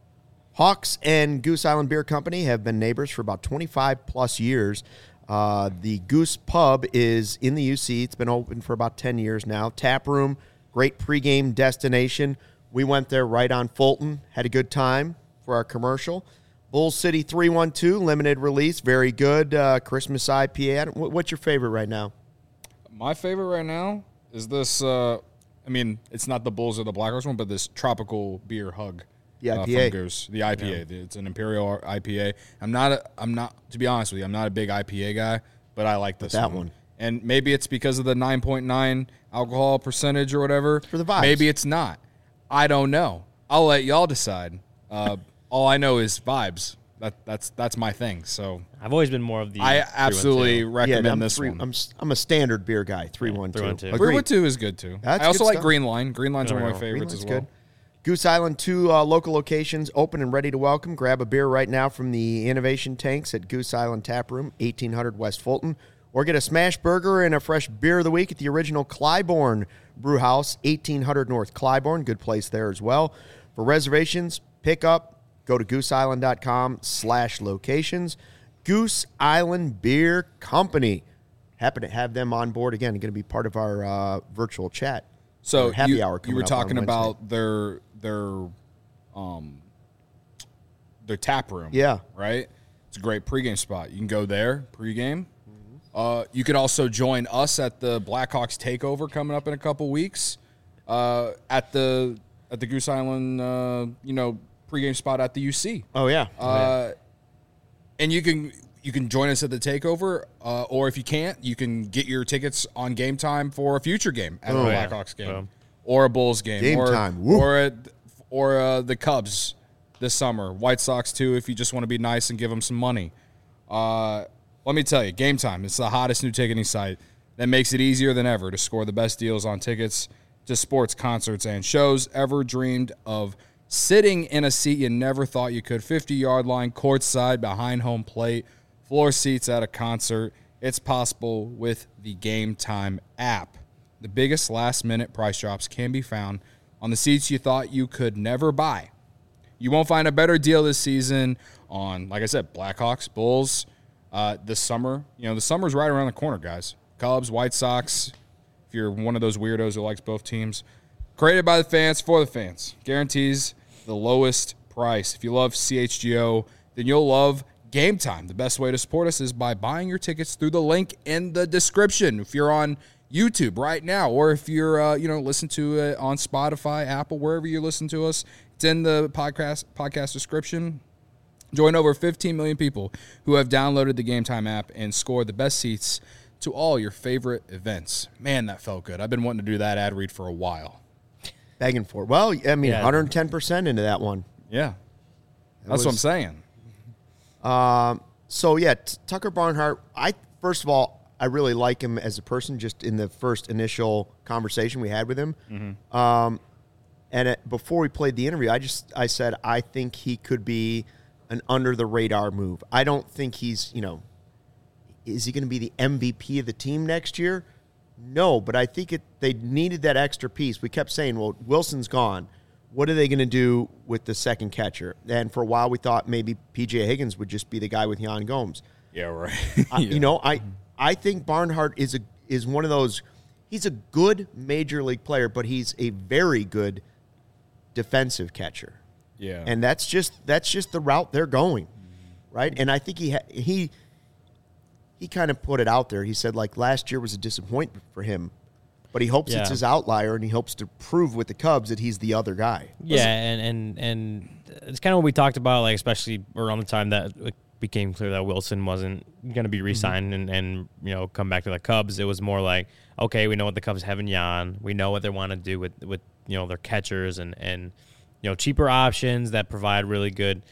Hawks and Goose Island Beer Company have been neighbors for about 25 plus years. The Goose Pub is in the UC. It's been open for about 10 years now. Tap room, great pregame destination. We went there right on Fulton, had a good time for our commercial. Bull City 312, limited release, very good. Christmas IPA. What's your favorite right now? My favorite right now is this, I mean, it's not the Bulls or the Blackhawks one, but this tropical beer hug. The IPA. From Goose. The IPA. Yeah. It's an Imperial IPA. I'm not, to be honest with you, I'm not a big IPA guy, but I like this one. And maybe it's because of the 9.9 alcohol percentage or whatever. For the vibes. Maybe it's not. I don't know. I'll let y'all decide. All I know is vibes. That's my thing. So I've always been more of the. I absolutely recommend this one. I'm a standard beer guy. 312. 312 is good too. That's I also like stuff. Green Line. Green Line's one of my favorites as well. Good. Goose Island, 2 local locations open and ready to welcome. Grab a beer right now from the Innovation Tanks at Goose Island Tap Room, 1800 West Fulton, or get a smash burger and a fresh beer of the week at the original Clybourne Brew House, 1800 North Clybourne. Good place there as well. For reservations, pick up, go to gooseisland.com/locations. Goose Island Beer Company. Happy to have them on board again. Going to be part of our virtual chat. So happy hour. You were talking about their tap room. Yeah. Right? It's a great pregame spot. You can go there, pregame. You could also join us at the Blackhawks takeover coming up in a couple weeks. At the Goose Island pregame spot at the UC. Oh yeah. And you can join us at the takeover, or if you can't, you can get your tickets on Game Time for a future game at a Blackhawks game or a Bulls game. Game Time. Woo. Or the Cubs this summer. White Sox too, if you just want to be nice and give them some money. Let me tell you, Game Time, it's the hottest new ticketing site that makes it easier than ever to score the best deals on tickets to sports, concerts, and shows. Ever dreamed of sitting in a seat you never thought you could? 50-yard line, courtside, behind home plate, floor seats at a concert. It's possible with the Game Time app. The biggest last-minute price drops can be found on the seats you thought you could never buy. You won't find a better deal this season on, like I said, Blackhawks, Bulls. This summer, the summer's right around the corner, guys. Cubs, White Sox, if you're one of those weirdos who likes both teams. Created by the fans, for the fans. Guarantees the lowest price. If you love CHGO, then you'll love Game Time. The best way to support us is by buying your tickets through the link in the description. If you're on YouTube right now, or if you're listen to it on Spotify, Apple, wherever you listen to us, it's in the podcast description. Join over 15 million people who have downloaded the Game Time app and scored the best seats to all your favorite events. Man, that felt good. I've been wanting to do that ad read for a while. Begging for it. Well, I mean, 110% into that one. Yeah. That's what I'm saying. So, yeah, Tucker Barnhart, first of all, I really like him as a person just in the first initial conversation we had with him. Mm-hmm. Before we played the interview, I said I think he could be an under-the-radar move. I don't think he's, is he going to be the MVP of the team next year? No, but I think they needed that extra piece. We kept saying, well, Wilson's gone. What are they going to do with the second catcher? And for a while, we thought maybe P.J. Higgins would just be the guy with Jan Gomes. Yeah, right. I think Barnhart is one of those. He's a good major league player, but he's a very good defensive catcher. Yeah, and that's just the route they're going, right? And I think he kind of put it out there. He said, like, last year was a disappointment for him, but he hopes it's his outlier, and he hopes to prove with the Cubs that he's the other guy. Yeah, and it's kind of what we talked about, like, especially around the time that it became clear that Wilson wasn't going to be re-signed and come back to the Cubs. It was more like, okay, we know what the Cubs have in Jan. We know what they want to do with their catchers and cheaper options that provide really good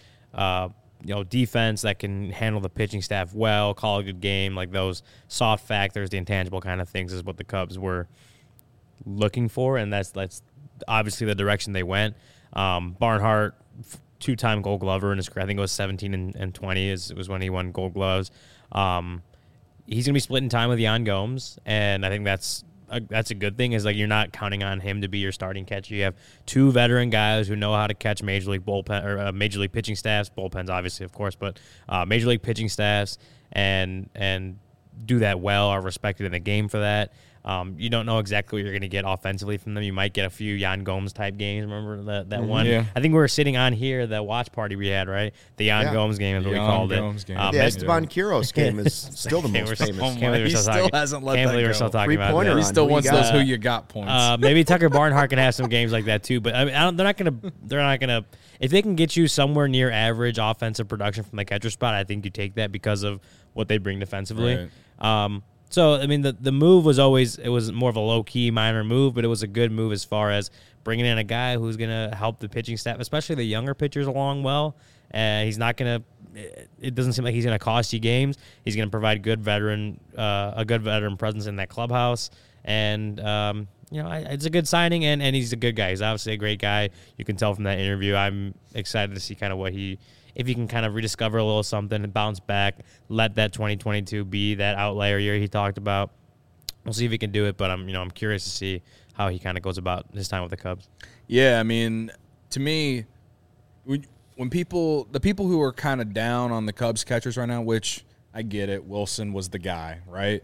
defense that can handle the pitching staff well, call a good game, like those soft factors, the intangible kind of things is what the Cubs were looking for, and that's obviously the direction they went. Barnhart, two-time Gold Glover in his career. I think it was 17 and 20 was when he won Gold Gloves. He's going to be splitting time with Jan Gomes, and I think that's a good thing, is like you're not counting on him to be your starting catcher. You have two veteran guys who know how to catch major league bullpen or major league pitching staffs, bullpens obviously, of course, but major league pitching staffs and do that well, are respected in the game for that. You don't know exactly what you're going to get offensively from them. You might get a few Jan Gomes type games. Remember that one? Yeah. I think we were sitting on here, the watch party we had, right? The Jan Gomes game is what we called it. Game. The Esteban Quiros game is still the most famous. He still hasn't let that we're go. still talking about Three-pointer that. He still wants those who you got points. Maybe Tucker Barnhart can have some games like that too, but I mean, they're not gonna. If they can get you somewhere near average offensive production from the catcher spot, I think you take that because of what they bring defensively. Right. So I mean, the move was more of a low key minor move, but it was a good move as far as bringing in a guy who's gonna help the pitching staff, especially the younger pitchers, along well. He's not gonna. It doesn't seem like he's gonna cost you games. He's gonna provide a good veteran presence in that clubhouse, and it's a good signing, and he's a good guy. He's obviously a great guy. You can tell from that interview. I'm excited to see kind of if he can kind of rediscover a little something and bounce back, let that 2022 be that outlier year he talked about. We'll see if he can do it, but I'm curious to see how he kind of goes about his time with the Cubs. Yeah, I mean, to me, when the people who are kind of down on the Cubs catchers right now, which I get it, Wilson was the guy, right?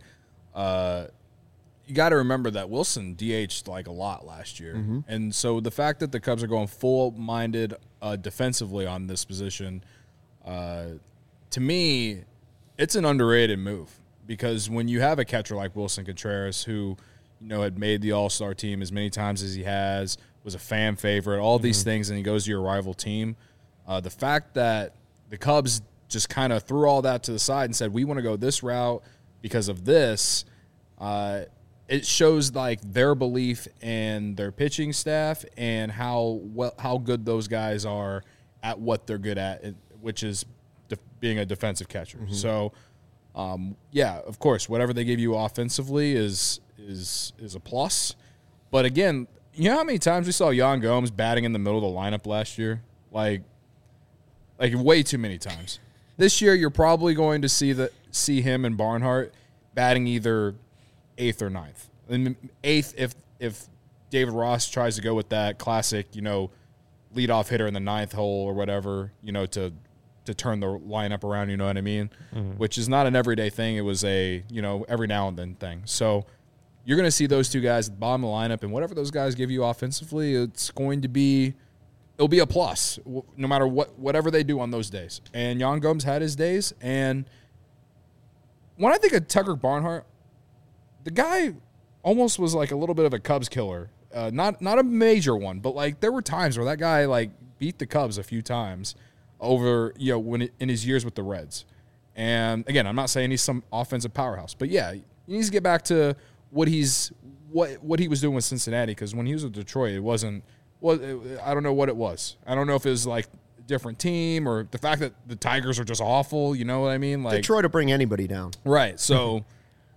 You got to remember that Wilson DH'd like a lot last year. Mm-hmm. And so the fact that the Cubs are going full-minded defensively on this position, to me, it's an underrated move, because when you have a catcher like Wilson Contreras, who had made the All-Star team as many times as he has, was a fan favorite, all these things, and he goes to your rival team, the fact that the Cubs just kind of threw all that to the side and said, we want to go this route because of this, it shows like their belief in their pitching staff and how good those guys are at what they're good at, which is being a defensive catcher. Mm-hmm. So, of course, whatever they give you offensively is a plus. But again, you know how many times we saw Jan Gomes batting in the middle of the lineup last year? Like way too many times. This year, you're probably going to see him and Barnhart batting either 8th or 9th. And 8th if David Ross tries to go with that classic, leadoff hitter in the 9th hole or whatever, to turn the lineup around, you know what I mean? Mm-hmm. Which is not an everyday thing. It was a, every now and then thing. So you're going to see those two guys at the bottom of the lineup, and whatever those guys give you offensively, it'll be a plus, no matter whatever they do on those days. And Jan Gomes had his days, and when I think of Tucker Barnhart, the guy almost was like a little bit of a Cubs killer. Not a major one, but like there were times where that guy like beat the Cubs a few times over, when in his years with the Reds. And again, I'm not saying he's some offensive powerhouse, but yeah, he needs to get back to what he was doing with Cincinnati, because when he was with Detroit, I don't know what it was. I don't know if it was like a different team or the fact that the Tigers are just awful. You know what I mean? Like Detroit to bring anybody down, right? So.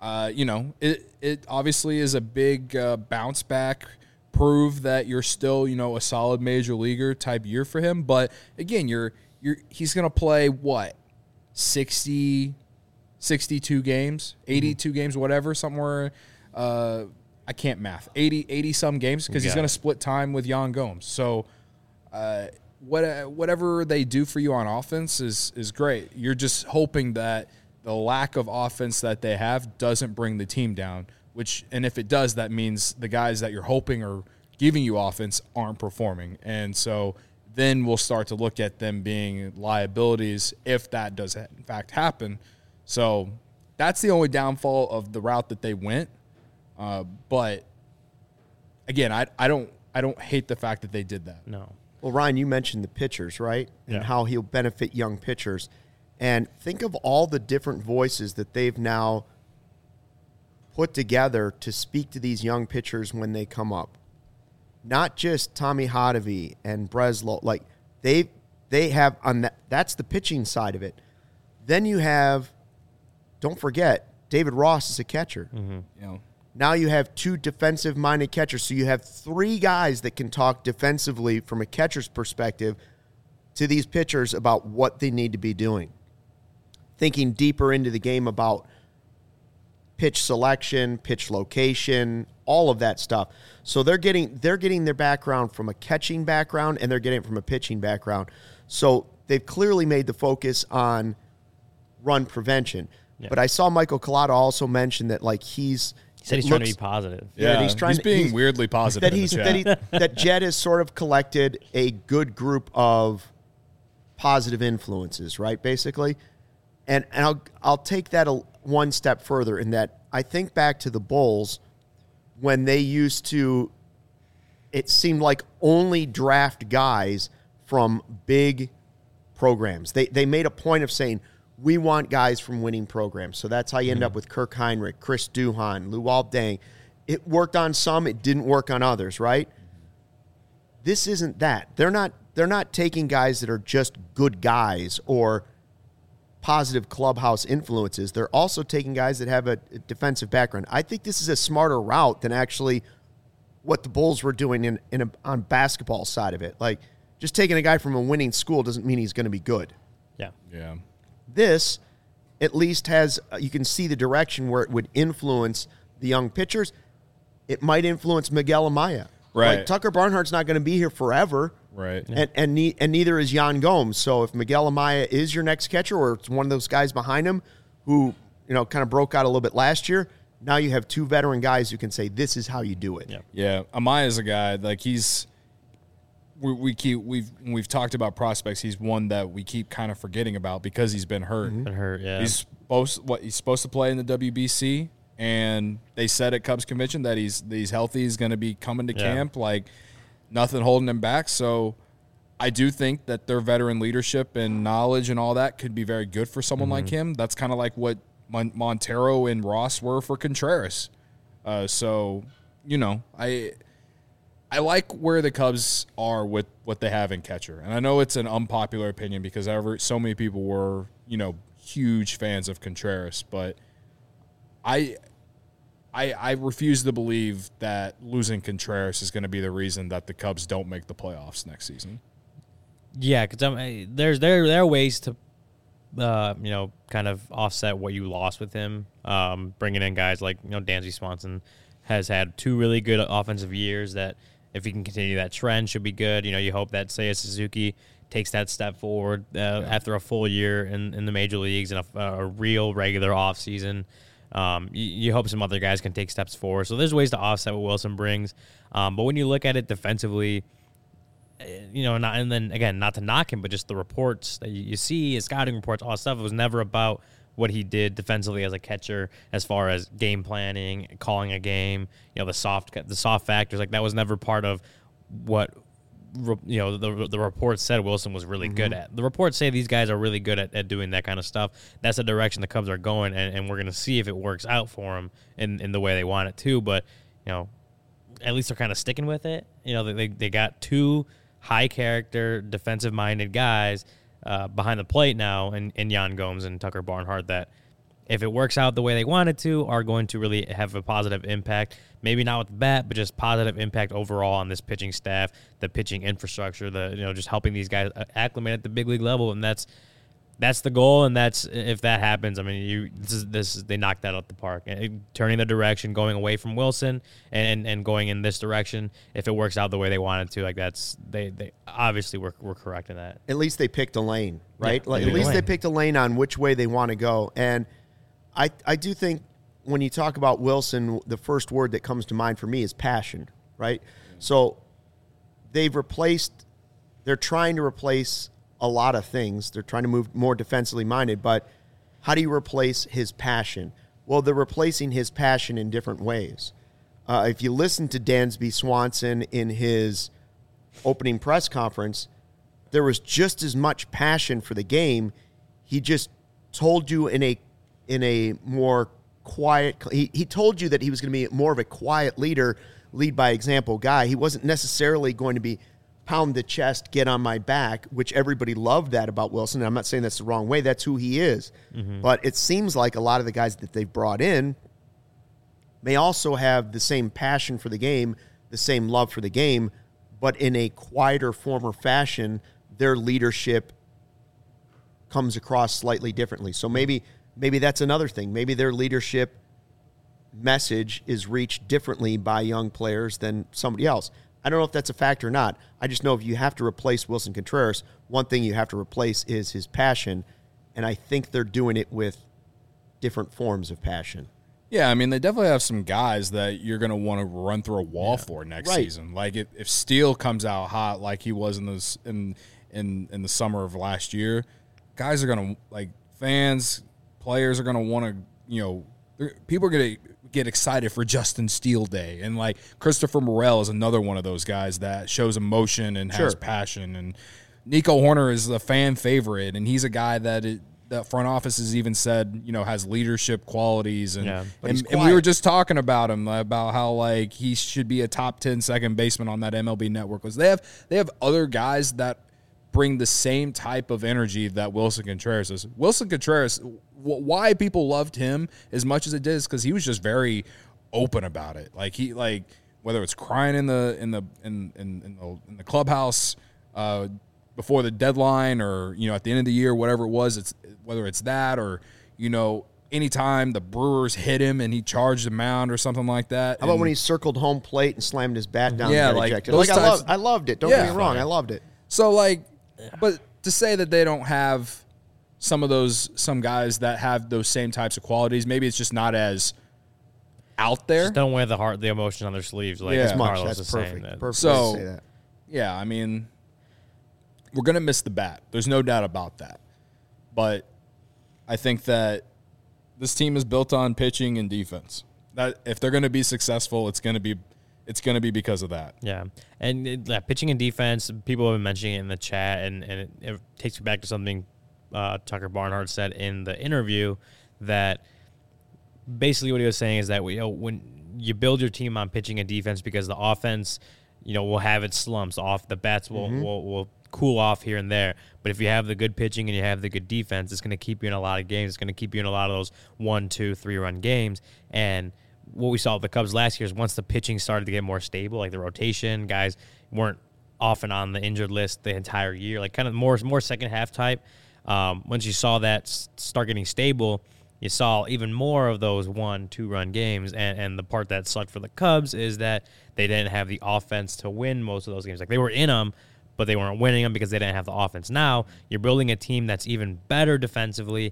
It obviously is a big bounce back, prove that you're still, a solid major leaguer type year for him. But again, he's going to play 60, 62 games, 82 games, whatever, somewhere I can't math, 80 some games because he's going to split time with Yan Gomes. So whatever they do for you on offense is great. You're just hoping that the lack of offense that they have doesn't bring the team down, and if it does, that means the guys that you're hoping are giving you offense aren't performing. And so then we'll start to look at them being liabilities if that does in fact happen. So that's the only downfall of the route that they went. But again, I don't hate the fact that they did that. No. Well, Ryan, you mentioned the pitchers, right? And how he'll benefit young pitchers. And think of all the different voices that they've now put together to speak to these young pitchers when they come up. Not just Tommy Hotovy and Breslow. Like, they have on that. That's the pitching side of it. Then you have, don't forget, David Ross is a catcher. You know, now you have 2 defensive-minded catchers. So you have 3 guys that can talk defensively from a catcher's perspective to these pitchers about what they need to be doing. Thinking deeper into the game about pitch selection, pitch location, all of that stuff. So they're getting their background from a catching background, and they're getting it from a pitching background. So they've clearly made the focus on run prevention. Yeah. But I saw Michael Collada also mention that, like, he said he's trying to be positive. Yeah, he's being weirdly positive. That Jed has sort of collected a good group of positive influences, right? Basically, and I'll take that one step further in that I think back to the Bulls when they used to. It seemed like only draft guys from big programs. They made a point of saying, we want guys from winning programs. So that's how you end up with Kirk Heinrich, Chris Duhon, Luol Deng. It worked on some, it didn't work on others, right? This isn't that. They're not taking guys that are just good guys or positive clubhouse influences. They're also taking guys that have a defensive background. I think this is a smarter route than actually what the Bulls were doing on basketball side of it. Like, just taking a guy from a winning school doesn't mean he's going to be good. Yeah. This at least has, you can see the direction where it would influence the young pitchers. It might influence Miguel Amaya. Right. Like, Tucker Barnhart's not going to be here forever. Right. And neither is Yan Gomes. So if Miguel Amaya is your next catcher, or it's one of those guys behind him who, kind of broke out a little bit last year, now you have 2 veteran guys who can say, this is how you do it. Yeah. Amaya's a guy, like, we've talked about prospects. He's one that we keep kind of forgetting about because he's been hurt. Been hurt, yeah. He's supposed to play in the WBC, and they said at Cubs convention that he's healthy. He's going to be coming to camp. Like, nothing holding him back. So I do think that their veteran leadership and knowledge and all that could be very good for someone like him. That's kind of like what Montero and Ross were for Contreras. So I like where the Cubs are with what they have in catcher. And I know it's an unpopular opinion because so many people were, huge fans of Contreras, but I refuse to believe that losing Contreras is going to be the reason that the Cubs don't make the playoffs next season. Yeah, because there are ways to, kind of offset what you lost with him. Bringing in guys like, Dansby Swanson has had 2 really good offensive years that, if he can continue that trend, should be good. You hope that Seiya Suzuki takes that step forward after a full year in the major leagues and a real regular offseason. You hope some other guys can take steps forward. So there's ways to offset what Wilson brings. But when you look at it defensively, not to knock him, but just the reports that you see, his scouting reports, all that stuff, it was never about what he did defensively as a catcher, as far as game planning, calling a game, the soft factors. Like, that was never part of what the reports said Wilson was really good at. The reports say these guys are really good at doing that kind of stuff. That's the direction the Cubs are going, and we're going to see if it works out for them in the way they want it to. But at least they're kind of sticking with it. They got 2 high character, defensive minded guys behind the plate now, and Yan Gomes and Tucker Barnhart, that if it works out the way they want it to, are going to really have a positive impact. Maybe not with the bat, but just positive impact overall on this pitching staff, the pitching infrastructure, just helping these guys acclimate at the big league level. And that's that's the goal, and that's if that happens. I mean, they knocked that out the park. Turning the direction, going away from Wilson, and going in this direction. If it works out the way they wanted to, like they obviously were correct in that. At least they picked a lane, right? Yeah, Like, at least they picked a lane on which way they want to go. And I do think when you talk about Wilson, the first word that comes to mind for me is passion, right? So they're trying to replace a lot of things. They're trying to move more defensively minded, but how do you replace his passion? Well, they're replacing his passion in different ways. If you listen to Dansby Swanson in his opening press conference, there was just as much passion for the game. He just told you in a more quiet, he told you that he was going to be more of a quiet leader, lead by example guy. He wasn't necessarily going to be pound the chest, get on my back, which everybody loved that about Wilson. I'm not saying that's the wrong way. That's who he is. Mm-hmm. But it seems like a lot of the guys that they've brought in may also have the same passion for the game, the same love for the game, but in a quieter form or fashion, their leadership comes across slightly differently. So maybe that's another thing. Maybe their leadership message is reached differently by young players than somebody else. I don't know if that's a factor or not. I just know if you have to replace Wilson Contreras, one thing you have to replace is his passion, and I think they're doing it with different forms of passion. Yeah, I mean, they definitely have some guys that you're going to want to run through a wall for next season. Like if Steele comes out hot like he was in the summer of last year, guys are going to, like, fans, players are going to want to, people are going to get excited for Justin Steele Day. And, like, Christopher Morel is another one of those guys that shows emotion and has passion. And Nico Horner is a fan favorite, and he's a guy that the front office has even said, has leadership qualities. And, and we were just talking about him, about how, like, he should be a top 10 second baseman on that MLB network. Because they have other guys that bring the same type of energy that Wilson Contreras is. Wilson Contreras, why people loved him as much as it did is because he was just very open about it. Like whether it's crying in the clubhouse before the deadline, or at the end of the year, whatever it was, whether it's that or anytime the Brewers hit him and he charged the mound or something like that. How about when he circled home plate and slammed his bat down? Yeah, and got ejected? I loved it. Don't get me wrong, I loved it. So, but to say that they don't have some guys that have those same types of qualities, maybe it's just not as out there. Just don't wear the emotion on their sleeves like as much. Carlos That's is perfect. saying that. Perfect So, way to say that. Yeah, I mean, we're going to miss the bat. There's no doubt about that. But I think that this team is built on pitching and defense. That if they're going to be successful, it's going to be because of that. Yeah, and pitching and defense, people have been mentioning it in the chat, and it takes me back to something Tucker Barnhart said in the interview, that basically what he was saying is that when you build your team on pitching and defense, because the offense, will have its slumps. The bats will cool off here and there. But if you have the good pitching and you have the good defense, it's going to keep you in a lot of games. It's going to keep you in a lot of those 1, 2, 3 run games. And what we saw with the Cubs last year is once the pitching started to get more stable, like the rotation, guys weren't often on the injured list the entire year, like kind of more second half type. Once you saw that start getting stable, you saw even more of those 1, 2 run games. And the part that sucked for the Cubs is that they didn't have the offense to win most of those games. Like, they were in them, but they weren't winning them because they didn't have the offense. Now you're building a team that's even better defensively,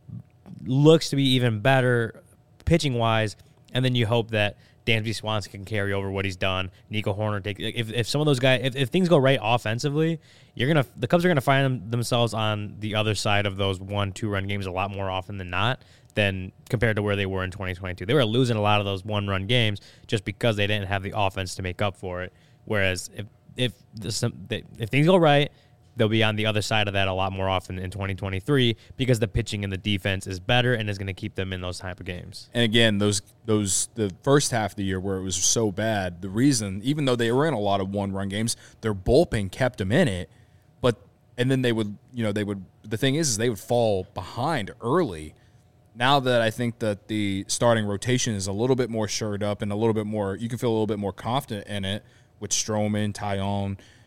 looks to be even better pitching wise, and then you hope that Dansby Swanson can carry over what he's done. Nico Horner if some of those guys, if things go right offensively, the Cubs are gonna find themselves on the other side of those 1, 2 run games a lot more often than not, than compared to where they were in 2022. They were losing a lot of those 1 run games just because they didn't have the offense to make up for it. Whereas if things go right, they'll be on the other side of that a lot more often in 2023 because the pitching and the defense is better and is going to keep them in those type of games. And again, the first half of the year where it was so bad, the reason, even though they were in a lot of 1-run games, their bullpen kept them in it. And then they would, the thing is they would fall behind early. Now that I think that the starting rotation is a little bit more shored up and a little bit more, you can feel a little bit more confident in it with Stroman, Taillon,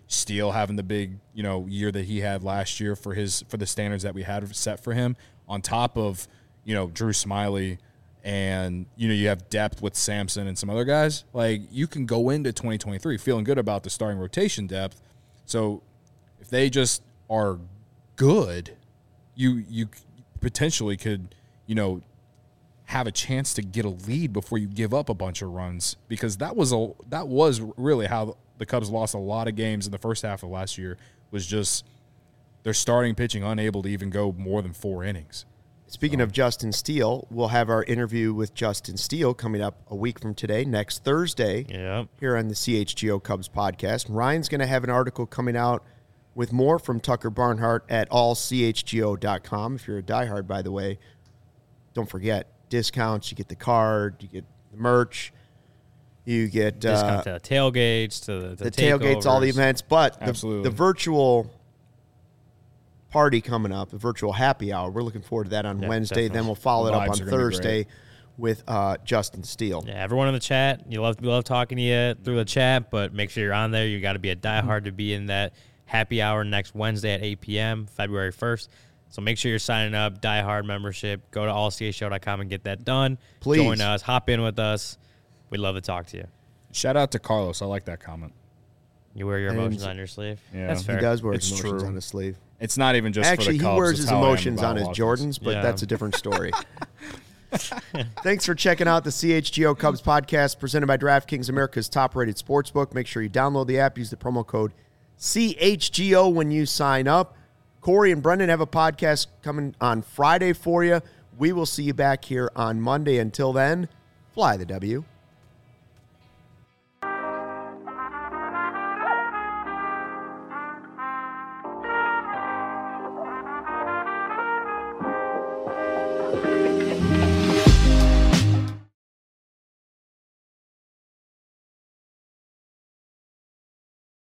Steele having the big, year that he had last year for the standards that we had set for him, on top of, Drew Smiley, and, you have depth with Samson and some other guys. Like, you can go into 2023 feeling good about the starting rotation depth. So if they just are good, you potentially could, have a chance to get a lead before you give up a bunch of runs, because that was really how the Cubs lost a lot of games in the first half of last year, was just their starting pitching unable to even go more than 4 innings. Speaking of Justin Steele, we'll have our interview with Justin Steele coming up a week from today, next Thursday, here on the CHGO Cubs podcast. Ryan's going to have an article coming out with more from Tucker Barnhart at allchgo.com. If you're a diehard, by the way, don't forget, discounts, you get the card, you get the merch, you get discount to the tailgates, to the tailgates, all the events, but Absolutely. the virtual party coming up, the virtual happy hour, we're looking forward to that on Wednesday. Definitely. Then we'll follow it up Vibes on are gonna be Thursday with Justin Steele. Yeah, everyone in the chat, we love talking to you through the chat, but make sure you're on there. You got to be a diehard to be in that happy hour next Wednesday at 8 p.m., February 1st. So make sure you're signing up, diehard membership. Go to allchgo.com and get that done. Please. Join us. Hop in with us. We'd love to talk to you. Shout out to Carlos. I like that comment. You wear your emotions on your sleeve. Yeah. That's fair. He does wear It's his emotions true. on his sleeve. It's not even just Actually, for the Cubs. he wears it's his how I am emotions about on his offense. Jordans, but Yeah. that's a different story. Thanks for checking out the CHGO Cubs podcast presented by DraftKings, America's top-rated sportsbook. Make sure you download the app. Use the promo code CHGO when you sign up. Corey and Brendan have a podcast coming on Friday for you. We will see you back here on Monday. Until then, fly the W.